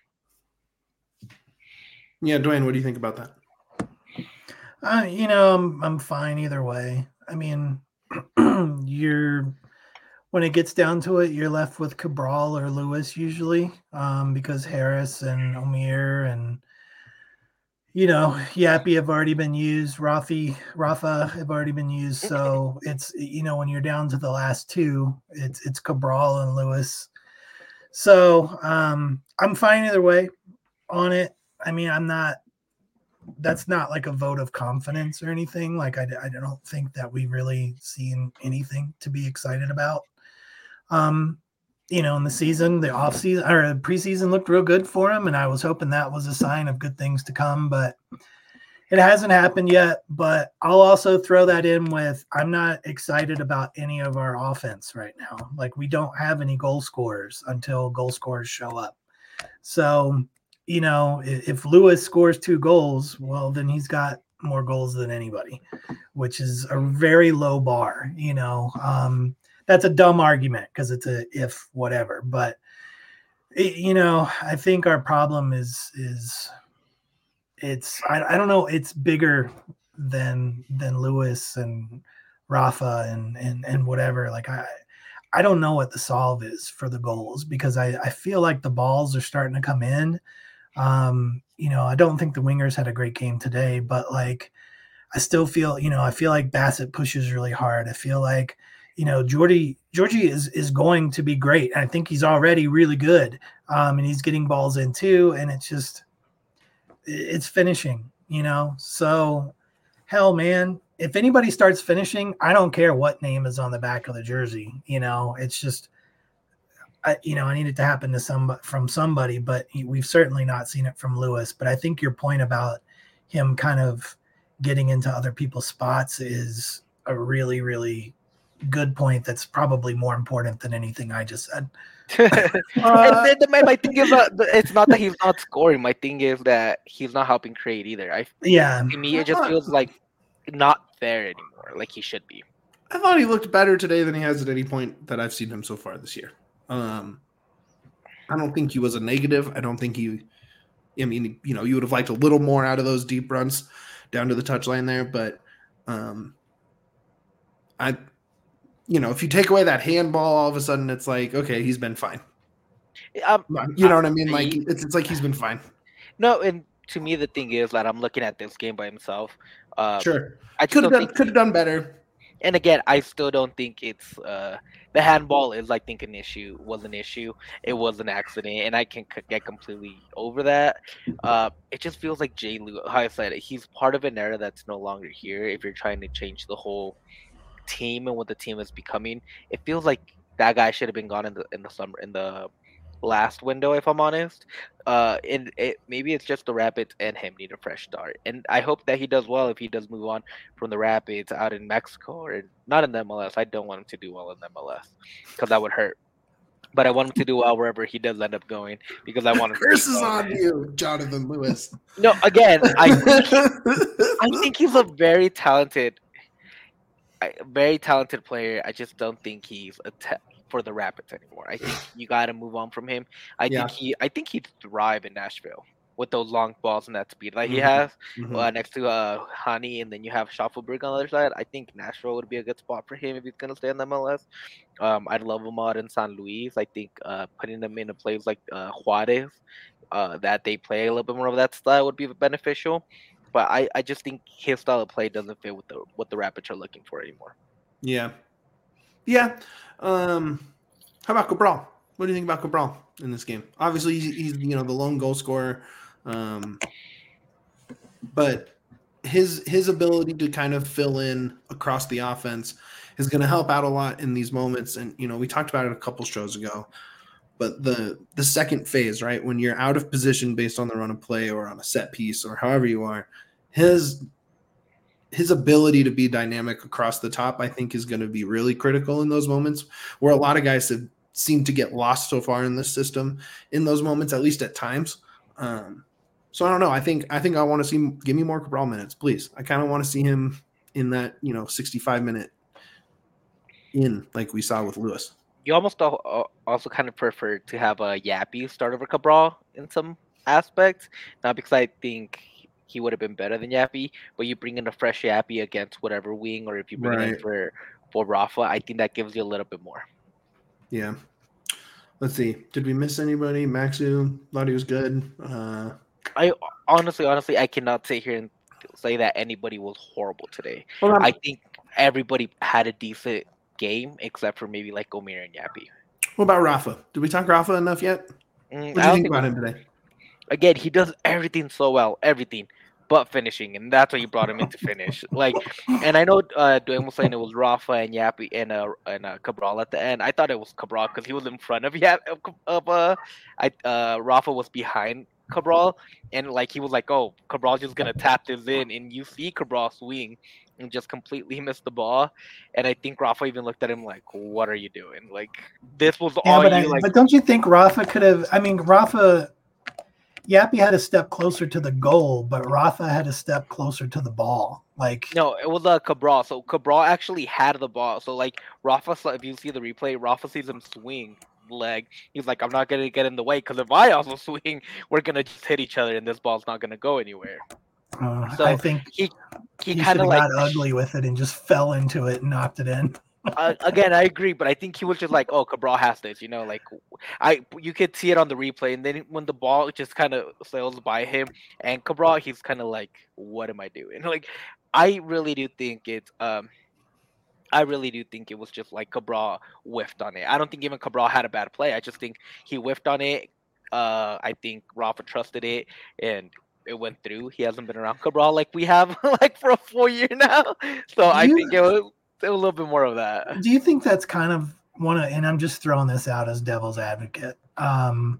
Yeah, Dwayne, what do you think about that? Uh, you know, I'm I'm fine either way. I mean, you're when it gets down to it, you're left with Cabral or Lewis usually, um, because Harris and Omir and you know Yappy have already been used. Rafi, Rafa have already been used. So it's you know when you're down to the last two, it's it's Cabral and Lewis. So um, I'm fine either way on it. I mean, I'm not. That's not like a vote of confidence or anything. Like I, I don't think that we really seen anything to be excited about. Um, you know, in the season, the off season or the preseason looked real good for him, and I was hoping that was a sign of good things to come, but it hasn't happened yet. But I'll also throw that in with I'm not excited about any of our offense right now. Like we don't have any goal scorers until goal scorers show up. So you know, if Lewis scores two goals, well, then he's got more goals than anybody, which is a very low bar. You know, um, that's a dumb argument because it's a if whatever. But it, you know, I think our problem is is it's I, I don't know. It's bigger than than Lewis and Rafa and and and whatever. Like I. I don't know what the solve is for the goals because I, I feel like the balls are starting to come in. Um, you know, I don't think the wingers had a great game today, but like, I still feel, you know, I feel like Bassett pushes really hard. I feel like, you know, Jordy, Georgie is, is going to be great. I think he's already really good. Um, and he's getting balls in too. And it's just, it's finishing, you know? So hell, man, if anybody starts finishing, I don't care what name is on the back of the jersey, you know, it's just, I, you know, I need it to happen to some from somebody, but we've certainly not seen it from Lewis. But I think your point about him kind of getting into other people's spots is a really, really good point. That's probably more important than anything I just said. uh, and then my, my thing is, uh, it's not that he's not scoring. My thing is that he's not helping create either. I yeah, to me, it just feels like not there anymore, like he should be. I thought he looked better today than he has at any point that I've seen him so far this year. Um, I don't think he was a negative. I don't think he. I mean, you know, you would have liked a little more out of those deep runs down to the touchline there, but um, I. You know, if you take away that handball, all of a sudden it's like, okay, he's been fine. Um, you know what I mean? Like it's it's like he's been fine. No, and to me the thing is that I'm looking at this game by himself. Uh, sure, I could have done could have done better. And again, I still don't think it's uh, the handball is I think an issue was an issue. It was an accident, and I can c- get completely over that. Uh, it just feels like Jay Lou. How I said it, he's part of an era that's no longer here. If you're trying to change the whole team and what the team is becoming, it feels like that guy should have been gone in the in the summer in the last window, if I'm honest. Uh and it maybe it's just the Rapids and him need a fresh start, and I hope that he does well if he does move on from the Rapids out in Mexico or not in the M L S. I don't want him to do well in the M L S because that would hurt, but I want him to do well wherever he does end up going because I want him curse to is on you, Jonathan Lewis. No, again, I think he, I think he's a very talented very talented player. I just don't think he's a te- for the Rapids anymore. I think you got to move on from him. I yeah. think he, I think he'd thrive in Nashville with those long balls and that speed like mm-hmm. he has mm-hmm. uh, next to uh, Hani, and then you have Schaffelberg on the other side. I think Nashville would be a good spot for him if he's gonna stay in the M L S. Um, I'd love him out in San Luis. I think uh, putting them in a place like uh, Juarez, uh, that they play a little bit more of that style would be beneficial. But I, I just think his style of play doesn't fit with the what the Rapids are looking for anymore. Yeah. Yeah. Um, how about Cabral? What do you think about Cabral in this game? Obviously, he's, he's you know the lone goal scorer, um, but his his ability to kind of fill in across the offense is going to help out a lot in these moments. And you know, we talked about it a couple shows ago. But the the second phase, right, when you're out of position based on the run of play or on a set piece or however you are, his his ability to be dynamic across the top, I think, is going to be really critical in those moments where a lot of guys have seemed to get lost so far in this system in those moments, at least at times. Um, so I don't know. I think I think I want to see give me more Cabral minutes, please. I kind of want to see him in that you know sixty-five minute in like we saw with Lewis. You almost also kind of prefer to have a Yappy start over Cabral in some aspects, not because I think he would have been better than Yappy, but you bring in a fresh Yappy against whatever wing, or if you bring right. in for for Rafa, I think that gives you a little bit more. Yeah. Let's see. Did we miss anybody? Maxu thought he was good. Uh, I honestly, honestly, I cannot sit here and say that anybody was horrible today. Well, I think everybody had a decent game except for maybe like Omer and Yappy. What about Rafa? Did we talk Rafa enough yet? Mm, what do you think, think about him today? Again, he does everything so well, everything but finishing, and that's why you brought him in to finish. Like, and I know uh, Dwayne was saying it was Rafa and Yappy and uh and uh, Cabral at the end. I thought it was Cabral because he was in front of Yap of, of uh I uh Rafa was behind Cabral, and like he was like, oh, Cabral's just gonna tap this in, and you see Cabral swing and just completely missed the ball. And I think Rafa even looked at him like, what are you doing? Like, this was yeah, all but you I, like. But don't you think Rafa could have? I mean, Rafa. Yappy had a step closer to the goal, but Rafa had a step closer to the ball. Like no, it was uh, Cabral. So Cabral actually had the ball. So like Rafa, if you see the replay, Rafa sees him swing leg. He's like, I'm not gonna get in the way because if I also swing, we're gonna just hit each other, and this ball's not gonna go anywhere. Uh, so I think he he, he kind of like got ugly with it and just fell into it and knocked it in. uh, again, I agree, but I think he was just like, "Oh, Cabral has this," you know. Like, I you could see it on the replay, and then when the ball just kind of sails by him, and Cabral, he's kind of like, "What am I doing?" Like, I really do think it's, um, I really do think it was just like Cabral whiffed on it. I don't think even Cabral had a bad play. I just think he whiffed on it. Uh, I think Rafa trusted it, and it went through. He hasn't been around Cabral like we have like for a full year now, so I think it was. A little bit more of that. Do you think that's kind of one of, and I'm just throwing this out as devil's advocate. Um,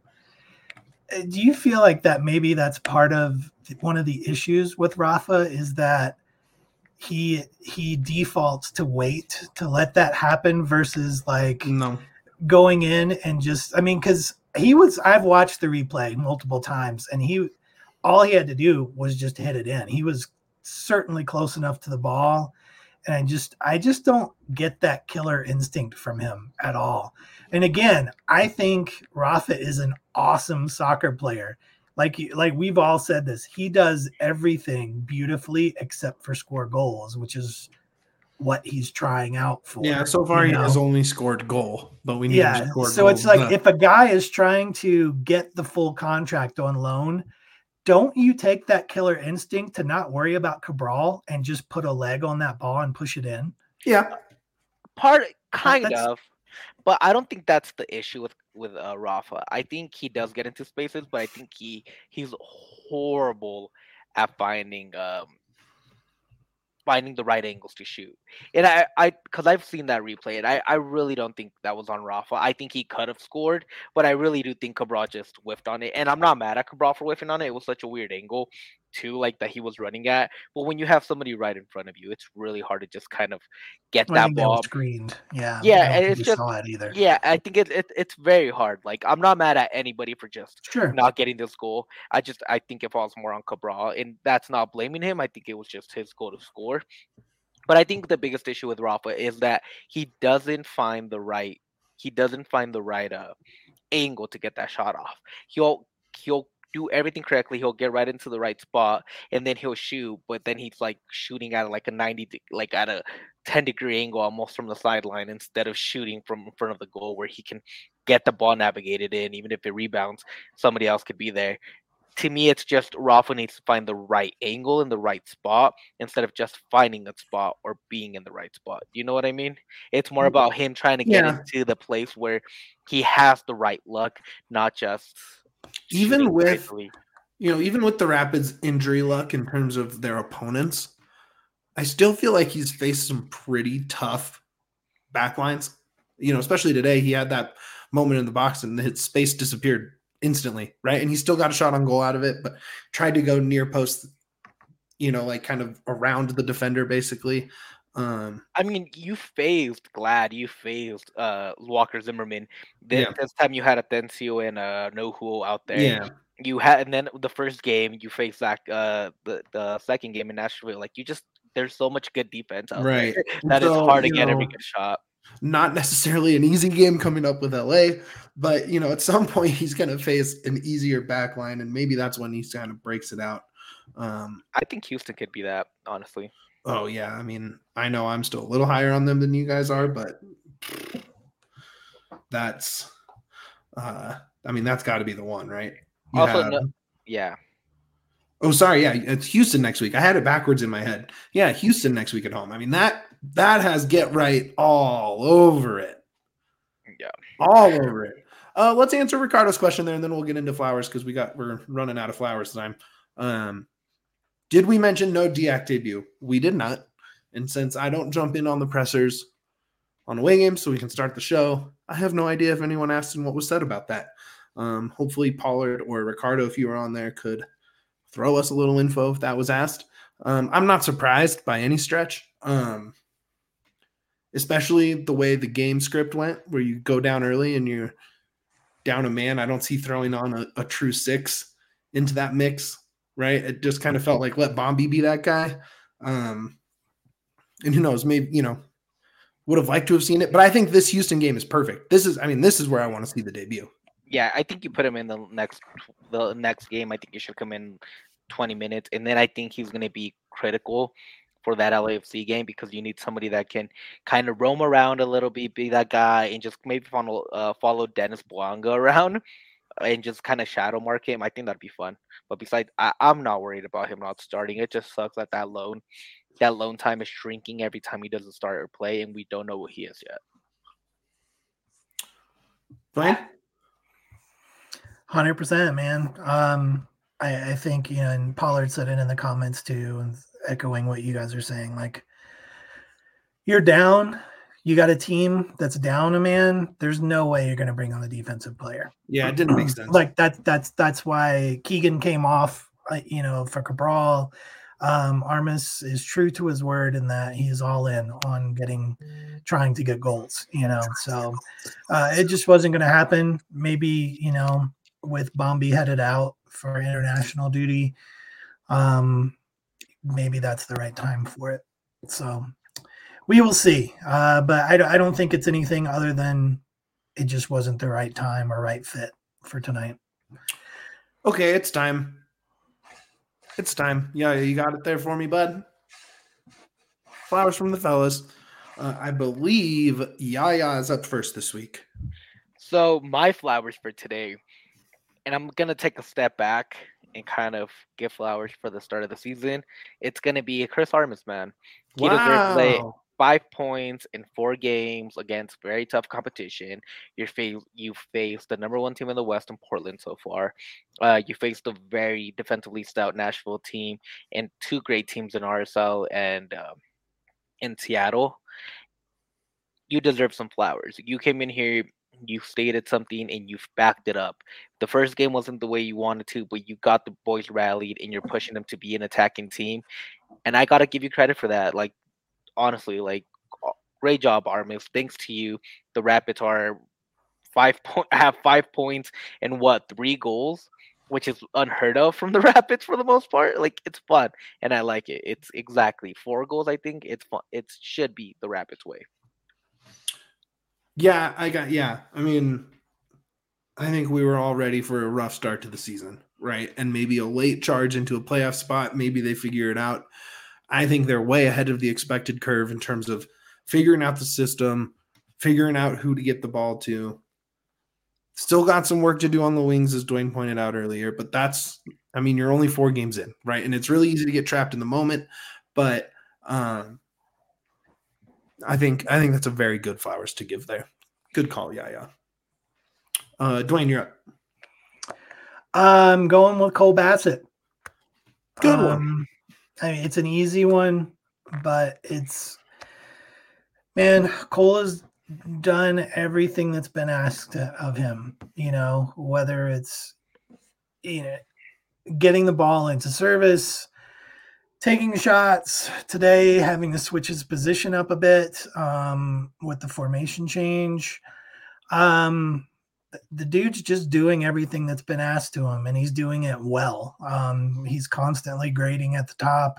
do you feel like that maybe that's part of one of the issues with Rafa is that he he defaults to wait to let that happen versus like No. going in and just I mean because he was I've watched the replay multiple times and he all he had to do was just hit it in. He was certainly close enough to the ball. And I just I just don't get that killer instinct from him at all. And again, I think Rafa is an awesome soccer player. Like like we've all said this, he does everything beautifully except for score goals, which is what he's trying out for. Yeah, so far you he know? has only scored goal, but we need Yeah, him to score so goals. it's like But- if a guy is trying to get the full contract on loan, don't you take that killer instinct to not worry about Cabral and just put a leg on that ball and push it in? yeah, Part kind that's- of, but I don't think that's the issue with with uh, Rafa. I think he does get into spaces, but I think he he's horrible at finding um finding the right angles to shoot. And I I because I've seen that replay, and I I really don't think that was on Rafa. I think he could have scored, but I really do think Cabral just whiffed on it. And I'm not mad at Cabral for whiffing on it. It was such a weird angle too, like that he was running at. But when you have somebody right in front of you, it's really hard to just kind of get I that think they were ball. screened. Yeah. Yeah, I don't and think it's we just- saw it either. Yeah, I think it, it it's very hard. Like I'm not mad at anybody for just Sure. not getting this goal. I just I think it falls more on Cabral, and that's not blaming him. I think it was just his goal to score. But I think the biggest issue with Rafa is that he doesn't find the right he doesn't find the right uh angle to get that shot off. He'll he'll do everything correctly. He'll get right into the right spot, and then he'll shoot. But then he's like shooting at like a ninety, de- like at a ten degree angle, almost from the sideline, instead of shooting from in front of the goal, where he can get the ball navigated in. Even if it rebounds, somebody else could be there. To me, it's just Rafa needs to find the right angle in the right spot instead of just finding a spot or being in the right spot. You know what I mean? It's more about him trying to get Yeah. into the place where he has the right luck, not just Even shooting with- crazily. you know, even with the Rapids' injury luck in terms of their opponents, I still feel like he's faced some pretty tough backlines. You know, especially today, he had that moment in the box and his space disappeared instantly, right? And he still got a shot on goal out of it, but tried to go near post, you know, like kind of around the defender, basically. Um, I mean, you phased Glad, you phased uh, Walker Zimmerman. Then Yeah. this time you had Atencio and uh, Nohuo out there. yeah, You had, and then the first game you faced Zach. Uh, the the second game in Nashville, like you just there's so much good defense out right. there that it's So, hard to you get every know, good shot. not necessarily an easy game coming up with L A, but you know, at some point he's going to face an easier back line, and maybe that's when he kind of breaks it out. Um, I think Houston could be that, honestly. oh yeah, I mean, I know I'm still a little higher on them than you guys are, but that's, uh, I mean, that's got to be the one, right? You Also, have- no- Yeah, oh, sorry, yeah, it's Houston next week. I had it backwards in my head. Yeah, Houston next week at home. I mean that that has get right all over it. yeah. all over it. Uh, let's answer Ricardo's question there, and then we'll get into Flowers because we got we're running out of Flowers time. Um, did we mention no Diak debut? We did not, and since I don't jump in on the pressers on away games, so we can start the show, I have no idea if anyone asked and what was said about that. Um, hopefully, Pollard or Ricardo, if you were on there, could throw us a little info if that was asked. Um, I'm not surprised by any stretch. Um, especially the way the game script went, where you go down early and you're down a man. I don't see throwing on a, a true six into that mix, right? It just kind of felt like let Bombi be that guy. Um, and who knows, maybe, you know, would have liked to have seen it. But I think this Houston game is perfect. This is, I mean, this is where I want to see the debut. Yeah, I think you put him in the next the next game. I think he should come in twenty minutes, and then I think he's going to be critical for that L A F C game because you need somebody that can kind of roam around a little bit, be that guy, and just maybe follow uh, follow Dennis Bouanga around and just kind of shadow mark him. I think that'd be fun. But besides, I, I'm not worried about him not starting. It just sucks that that loan that loan time is shrinking every time he doesn't start or play, and we don't know what he is yet. Fine. one hundred percent, man. Um, I, I think, you know, and Pollard said it in the comments too, and echoing what you guys are saying. Like, you're down, you got a team that's down a man. There's no way you're going to bring on the defensive player. Yeah, it didn't make sense. Like that. That's that's why Keegan came off. Uh, you know, for Cabral. um, Armas is true to his word in that he is all in on getting, trying to get goals, you know. So uh, it just wasn't going to happen. Maybe, you know, with Bombi headed out for international duty, um, maybe that's the right time for it. So we will see. Uh, but I, I don't think it's anything other than it just wasn't the right time or right fit for tonight. Okay, it's time. It's time. Yeah, you got it there for me, bud. Flowers from the fellas. Uh, I believe Yaya is up first this week. So my flowers for today, and I'm gonna take a step back and kind of give flowers for the start of the season. It's gonna be Chris Armas, man. He deserves like Wow. five points in four games against very tough competition. You're fa- you've faced the number one team in the West in Portland so far. Uh, you faced a very defensively stout Nashville team and two great teams in R S L and um, in Seattle. You deserve some flowers. You came in here, you stated something, and you've backed it up. The first game wasn't the way you wanted to, but you got the boys rallied and you're pushing them to be an attacking team. And I gotta give you credit for that. Like honestly, like great job, Armas. Thanks to you, the Rapids are five point have five points and what three goals, which is unheard of from the Rapids for the most part. Like it's fun and I like it. It's exactly four goals. I think it's fun. It should be the Rapids way. Yeah, I got yeah. I mean, I think we were all ready for a rough start to the season, right? And maybe a late charge into a playoff spot. Maybe they figure it out. I think they're way ahead of the expected curve in terms of figuring out the system, figuring out who to get the ball to. Still got some work to do on the wings, as Dwayne pointed out earlier, but that's, I mean, you're only four games in, right? And it's really easy to get trapped in the moment, but um, I think I think that's a very good flowers to give there. Good call, yeah, yeah. Uh, Dwayne, you're up. I'm going with Cole Bassett. Good um, one. I mean, it's an easy one, but it's, man, Cole has done everything that's been asked of him, you know, whether it's, you know, getting the ball into service, taking shots today, having to switch his position up a bit um, with the formation change. Um, the dude's just doing everything that's been asked to him, and he's doing it well. Um, he's constantly grading at the top.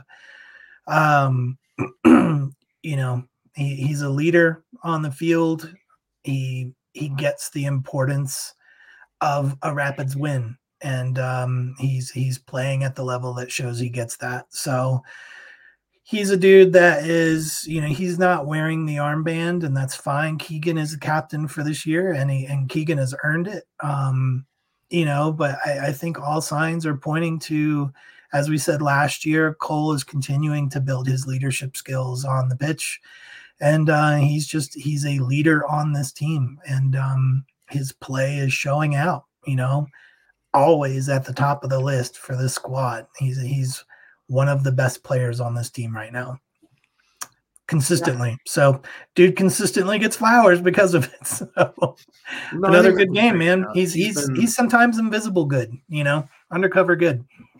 Um, you know, he, he's a leader on the field. He he gets the importance of a Rapids win, and um, he's he's playing at the level that shows he gets that. So he's a dude that is, you know, he's not wearing the armband, and that's fine. Keegan is the captain for this year, and he and Keegan has earned it. Um, you know, but I, I think all signs are pointing to, as we said last year, Cole is continuing to build his leadership skills on the pitch, and uh, he's just he's a leader on this team, and um, his play is showing out. You know, always at the top of the list for this squad. He's he's one of the best players on this team right now, consistently. Yeah. So, dude consistently gets flowers because of it. So, no, another good game, man. Out. He's he's he's, been... he's sometimes invisible good, you know, undercover good.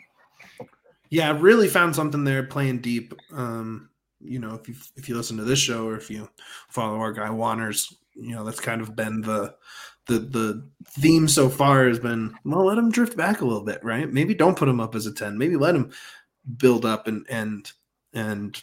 Yeah, really found something there playing deep. Um, you know, if you if you listen to this show or if you follow our guy Wanners, you know, that's kind of been the the the theme so far has been, well, let him drift back a little bit, right? Maybe don't put him up as a ten. Maybe let him build up and and and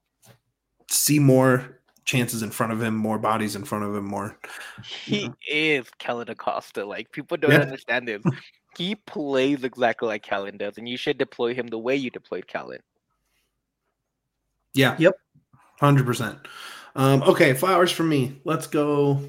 see more chances in front of him, more bodies in front of him, more. He know. is Kellen Acosta. Like, people don't yeah. understand this. He plays exactly like Kellen does, and you should deploy him the way you deployed Kellen. Yeah. Yep. one hundred percent. Um, okay, flowers for me. Let's go.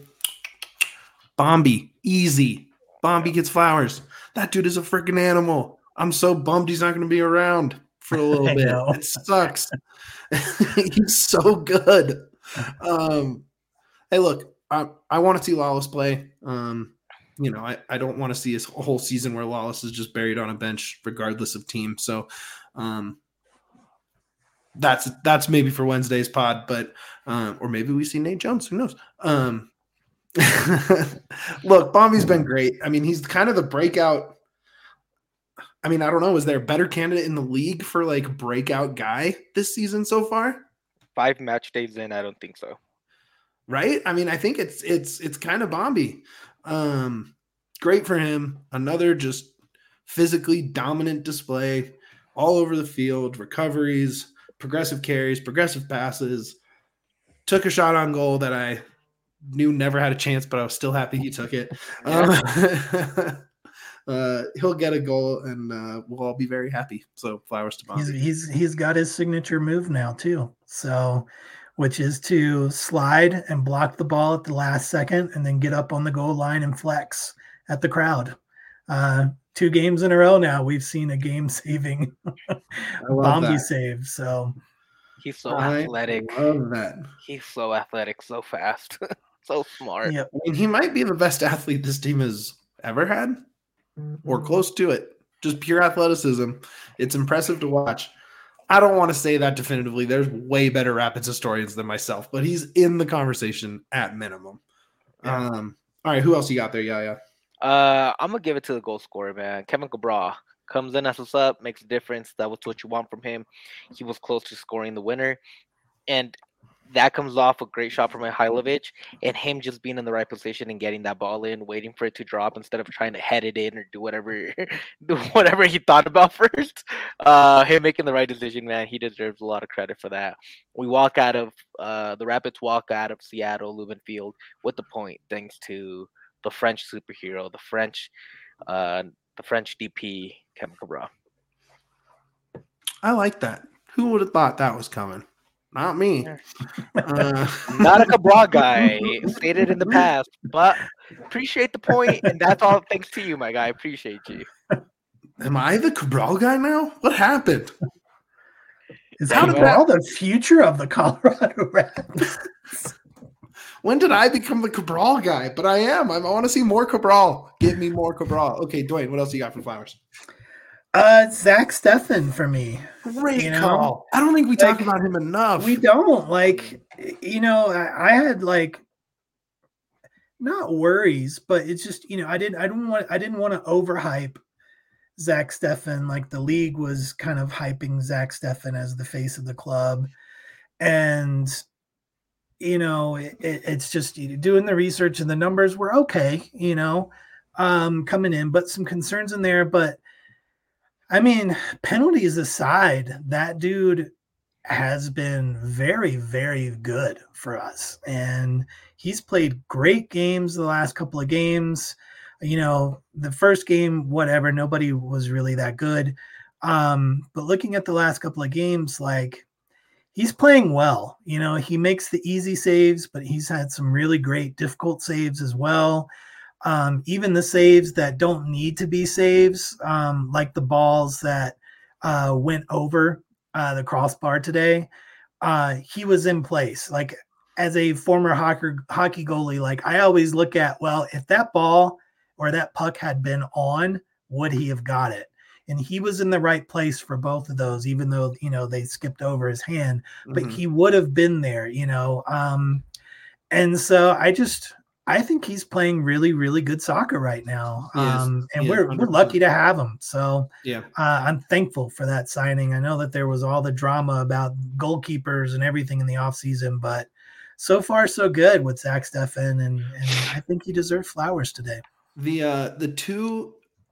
Bombi. Easy. Bombi gets flowers. That dude is a freaking animal. I'm so bummed he's not going to be around for a little bit. Know. It sucks. He's so good. Um, hey, look, I, I want to see Lawless play. Um, you know, I, I don't want to see a whole season where Lawless is just buried on a bench regardless of team. So um, that's that's maybe for Wednesday's pod, but um, or maybe we see Nate Jones. Who knows? Um, look, Bombi's been great. I mean, he's kind of the breakout. I mean, I don't know. Is there a better candidate in the league for like breakout guy this season so far? Five match days in, I don't think so. Right? I mean, I think it's it's it's kind of Bombi. Um, great for him. Another just physically dominant display all over the field, recoveries, progressive carries, progressive passes. Took a shot on goal that I knew never had a chance, but I was still happy he took it. Yeah. Um, uh, he'll get a goal, and uh, we'll all be very happy. So flowers to Bombi. He's he's he's got his signature move now too. So, which is to slide and block the ball at the last second, and then get up on the goal line and flex at the crowd. Uh, two games in a row now, we've seen a game-saving Bombi that. save. So he's so I athletic. love that. He's so athletic, so fast, so smart. Yep. I mean, he might be the best athlete this team has ever had, or close to it. Just pure athleticism. It's impressive to watch. I don't want to say that definitively. There's way better Rapids historians than myself, but he's in the conversation at minimum. Yeah. Um, all right, who else you got there? Yeah, yeah. Uh, I'm gonna give it to the goal scorer, man. Kevin Cabral comes in, as what's up, makes a difference. That was what you want from him. He was close to scoring the winner, and that comes off a great shot from Mihailovic, and him just being in the right position and getting that ball in, waiting for it to drop instead of trying to head it in or do whatever, do whatever he thought about first. Uh, him making the right decision, man. He deserves a lot of credit for that. We walk out of uh, the Rapids walk out of Seattle Lubin Field with the point, thanks to the French superhero, the French, uh, the French D P, Kevin Cabral. I like that. Who would have thought that was coming? Not me. Uh, Not a Cabral guy, stated in the past, but appreciate the point, and that's all thanks to you, my guy. Appreciate you. Am I the Cabral guy now? What happened? Is How did Cabral the future of the Colorado Rapids? When did I become the Cabral guy? But I am. I want to see more Cabral. Give me more Cabral. Okay, Dwayne, what else you got for flowers? Uh, Zach Steffen for me. Great You know, call. I don't think we like, talk about him enough. We don't like, you know, I, I had like not worries, but it's just, you know, I didn't, I didn't want, I didn't want to overhype Zach Steffen. Like the league was kind of hyping Zach Steffen as the face of the club, and you know, it, it, it's just doing the research and the numbers were okay, you know, um, coming in, but some concerns in there. But I mean, penalties aside, that dude has been very, very good for us. And he's played great games the last couple of games. You know, the first game, whatever, nobody was really that good. Um, but looking at the last couple of games, like, he's playing well. You know, he makes the easy saves, but he's had some really great difficult saves as well. Um, even the saves that don't need to be saves, um, like the balls that uh, went over uh, the crossbar today, uh, he was in place. Like as a former hockey, hockey goalie, like I always look at, well, if that ball or that puck had been on, would he have got it? And he was in the right place for both of those, even though, you know, they skipped over his hand, but Mhm. he would have been there, you know? Um, and so I just, I think he's playing really, really good soccer right now. He is. Um, and He is, we're, one hundred we're percent. lucky to have him. So Yeah. uh, I'm thankful for that signing. I know that there was all the drama about goalkeepers and everything in the offseason, but so far so good with Zach Steffen. And, and I think he deserves flowers today. The uh, the two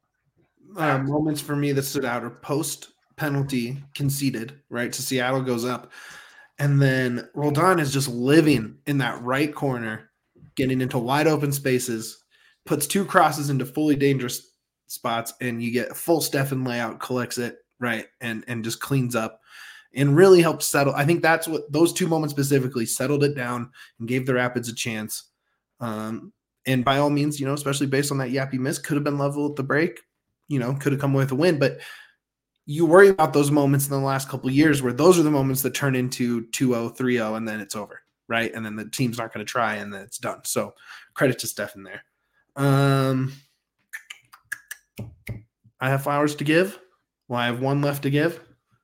uh, moments for me that stood out are post penalty conceded, right? So Seattle goes up, and then Roldan is just living in that right corner, getting into wide open spaces, puts two crosses into fully dangerous spots, and you get a full Steffen layout, collects it, right, and and just cleans up and really helps settle. I think that's what those two moments specifically settled it down and gave the Rapids a chance. Um, and by all means, you know, especially based on that Yappy miss, could have been level at the break, you know, could have come away with a win. But you worry about those moments in the last couple of years where those are the moments that turn into two oh, three oh, and then it's over, right? And then the team's not going to try, and then it's done. So credit to Steffen there. Um, I have flowers to give. Well, I have one left to give.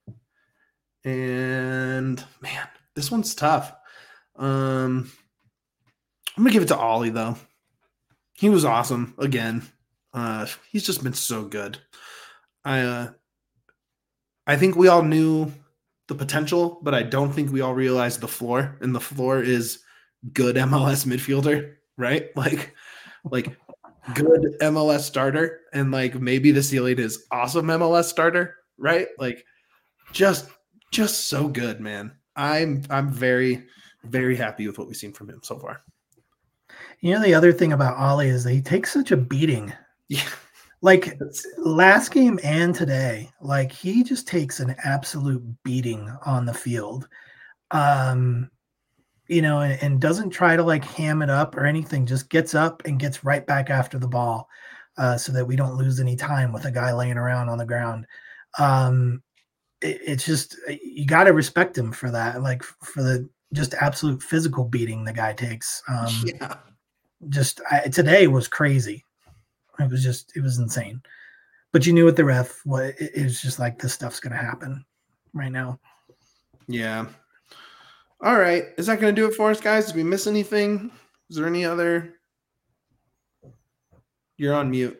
And, man, this one's tough. Um, I'm going to give it to Ollie, though. He was awesome again. Uh, he's just been so good. I uh, I think we all knew the potential, but I don't think we all realized the floor. And the floor is good M L S midfielder, right? Like, like good M L S starter, and like maybe the ceiling is awesome M L S starter, right? Like, just just so good, man. I'm I'm very very happy with what we've seen from him so far. You know, the other thing about Ollie is that he takes such a beating. Yeah. Like last game and today, like he just takes an absolute beating on the field. Um, you know, and, and doesn't try to like ham it up or anything, just gets up and gets right back after the ball uh, so that we don't lose any time with a guy laying around on the ground. Um, it, it's just, you got to respect him for that. Like for the just absolute physical beating the guy takes. Um, yeah. Just I, today was crazy. It was just, it was insane. But you knew with the ref, what it, it was just like this stuff's going to happen right now. Yeah. All right. Is that going to do it for us, guys? Did we miss anything? Is there any other? You're on mute.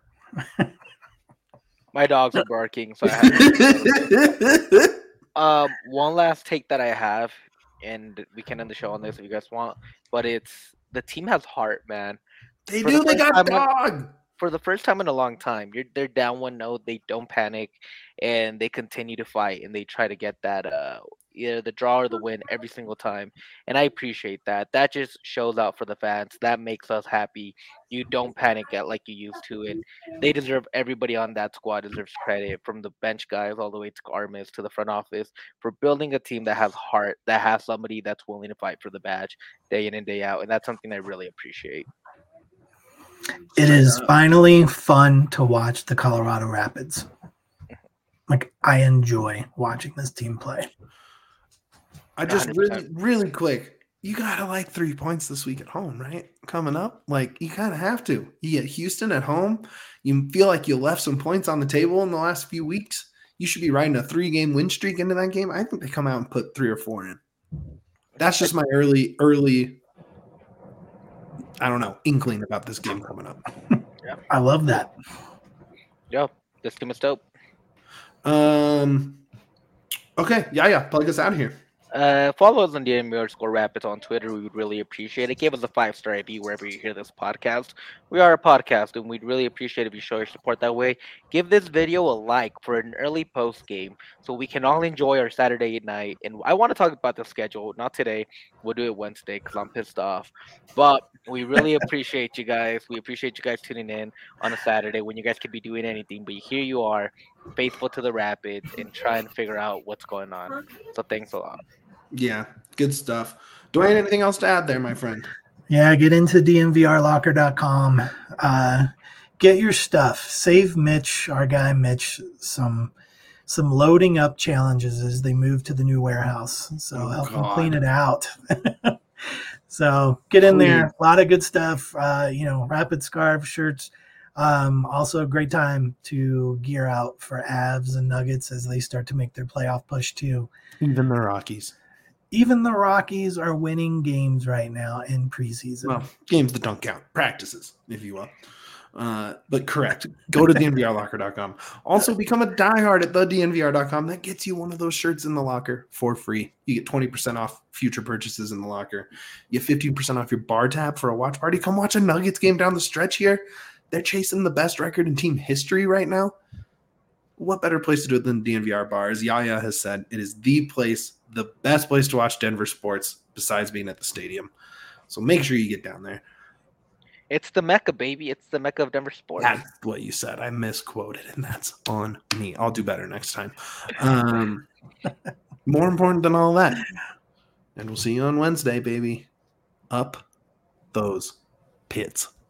My dogs are barking, so I have to... um, one last take that I have, and we can end the show on this if you guys want. But it's the team has heart, man. They For do. the They first got time on- dog. For the first time in a long time, you're they're down one note. They don't panic, and they continue to fight, and they try to get that uh either the draw or the win every single time. And I appreciate that. That just shows out for the fans. That makes us happy. You don't panic at like you used to, and they deserve everybody on that squad deserves credit from the bench guys all the way to Armis to the front office for building a team that has heart, that has somebody that's willing to fight for the badge day in and day out, and that's something I really appreciate. It is finally fun to watch the Colorado Rapids. Like I enjoy watching this team play. I just really, really quick. You gotta like three points this week at home, right? Coming up, like you kind of have to. You get Houston at home. You feel like you left some points on the table in the last few weeks. You should be riding a three-game win streak into that game. I think they come out and put three or four in. That's just my early, early. I don't know, inkling about this game coming up. Yeah. I love that. Yeah, this game is dope. Um. Okay, yeah, yeah. Plug us out of here. Uh, follow us on the N B A Score Rapids on Twitter. We would really appreciate it. Give us a five-star review wherever you hear this podcast. We are a podcast, and we'd really appreciate if you show your support that way. Give this video a like for an early post game so we can all enjoy our Saturday night. And I want to talk about the schedule. Not today. We'll do it Wednesday because I'm pissed off. But we really appreciate you guys. We appreciate you guys tuning in on a Saturday when you guys could be doing anything. But here you are, faithful to the Rapids and trying to figure out what's going on. So thanks a lot. Yeah, good stuff. Dwayne, anything else to add there, my friend? Yeah, get into D N V R locker dot com. Uh, get your stuff. Save Mitch, our guy Mitch, some some loading up challenges as they move to the new warehouse. So Oh, help them God. clean it out. So get in there. A lot of good stuff. Uh, you know, Rapid scarf shirts. Um, also a great time to gear out for Avs and Nuggets as they start to make their playoff push too. Even the Rockies. Even the Rockies are winning games right now in preseason. Well, games that don't count. Practices, if you will. Uh, but correct. Go to D N V R locker dot com. Also, become a diehard at the D N V R dot com. That gets you one of those shirts in the locker for free. You get twenty percent off future purchases in the locker. You get fifteen percent off your bar tab for a watch party. Come watch a Nuggets game down the stretch here. They're chasing the best record in team history right now. What better place to do it than D N V R bar? As Yaya has said, it is the place, the best place to watch Denver sports besides being at the stadium. So make sure you get down there. It's the Mecca, baby. It's the Mecca of Denver sports. That's what you said. I misquoted, and that's on me. I'll do better next time. Um, more important than all that. And we'll see you on Wednesday, baby. Up those pits.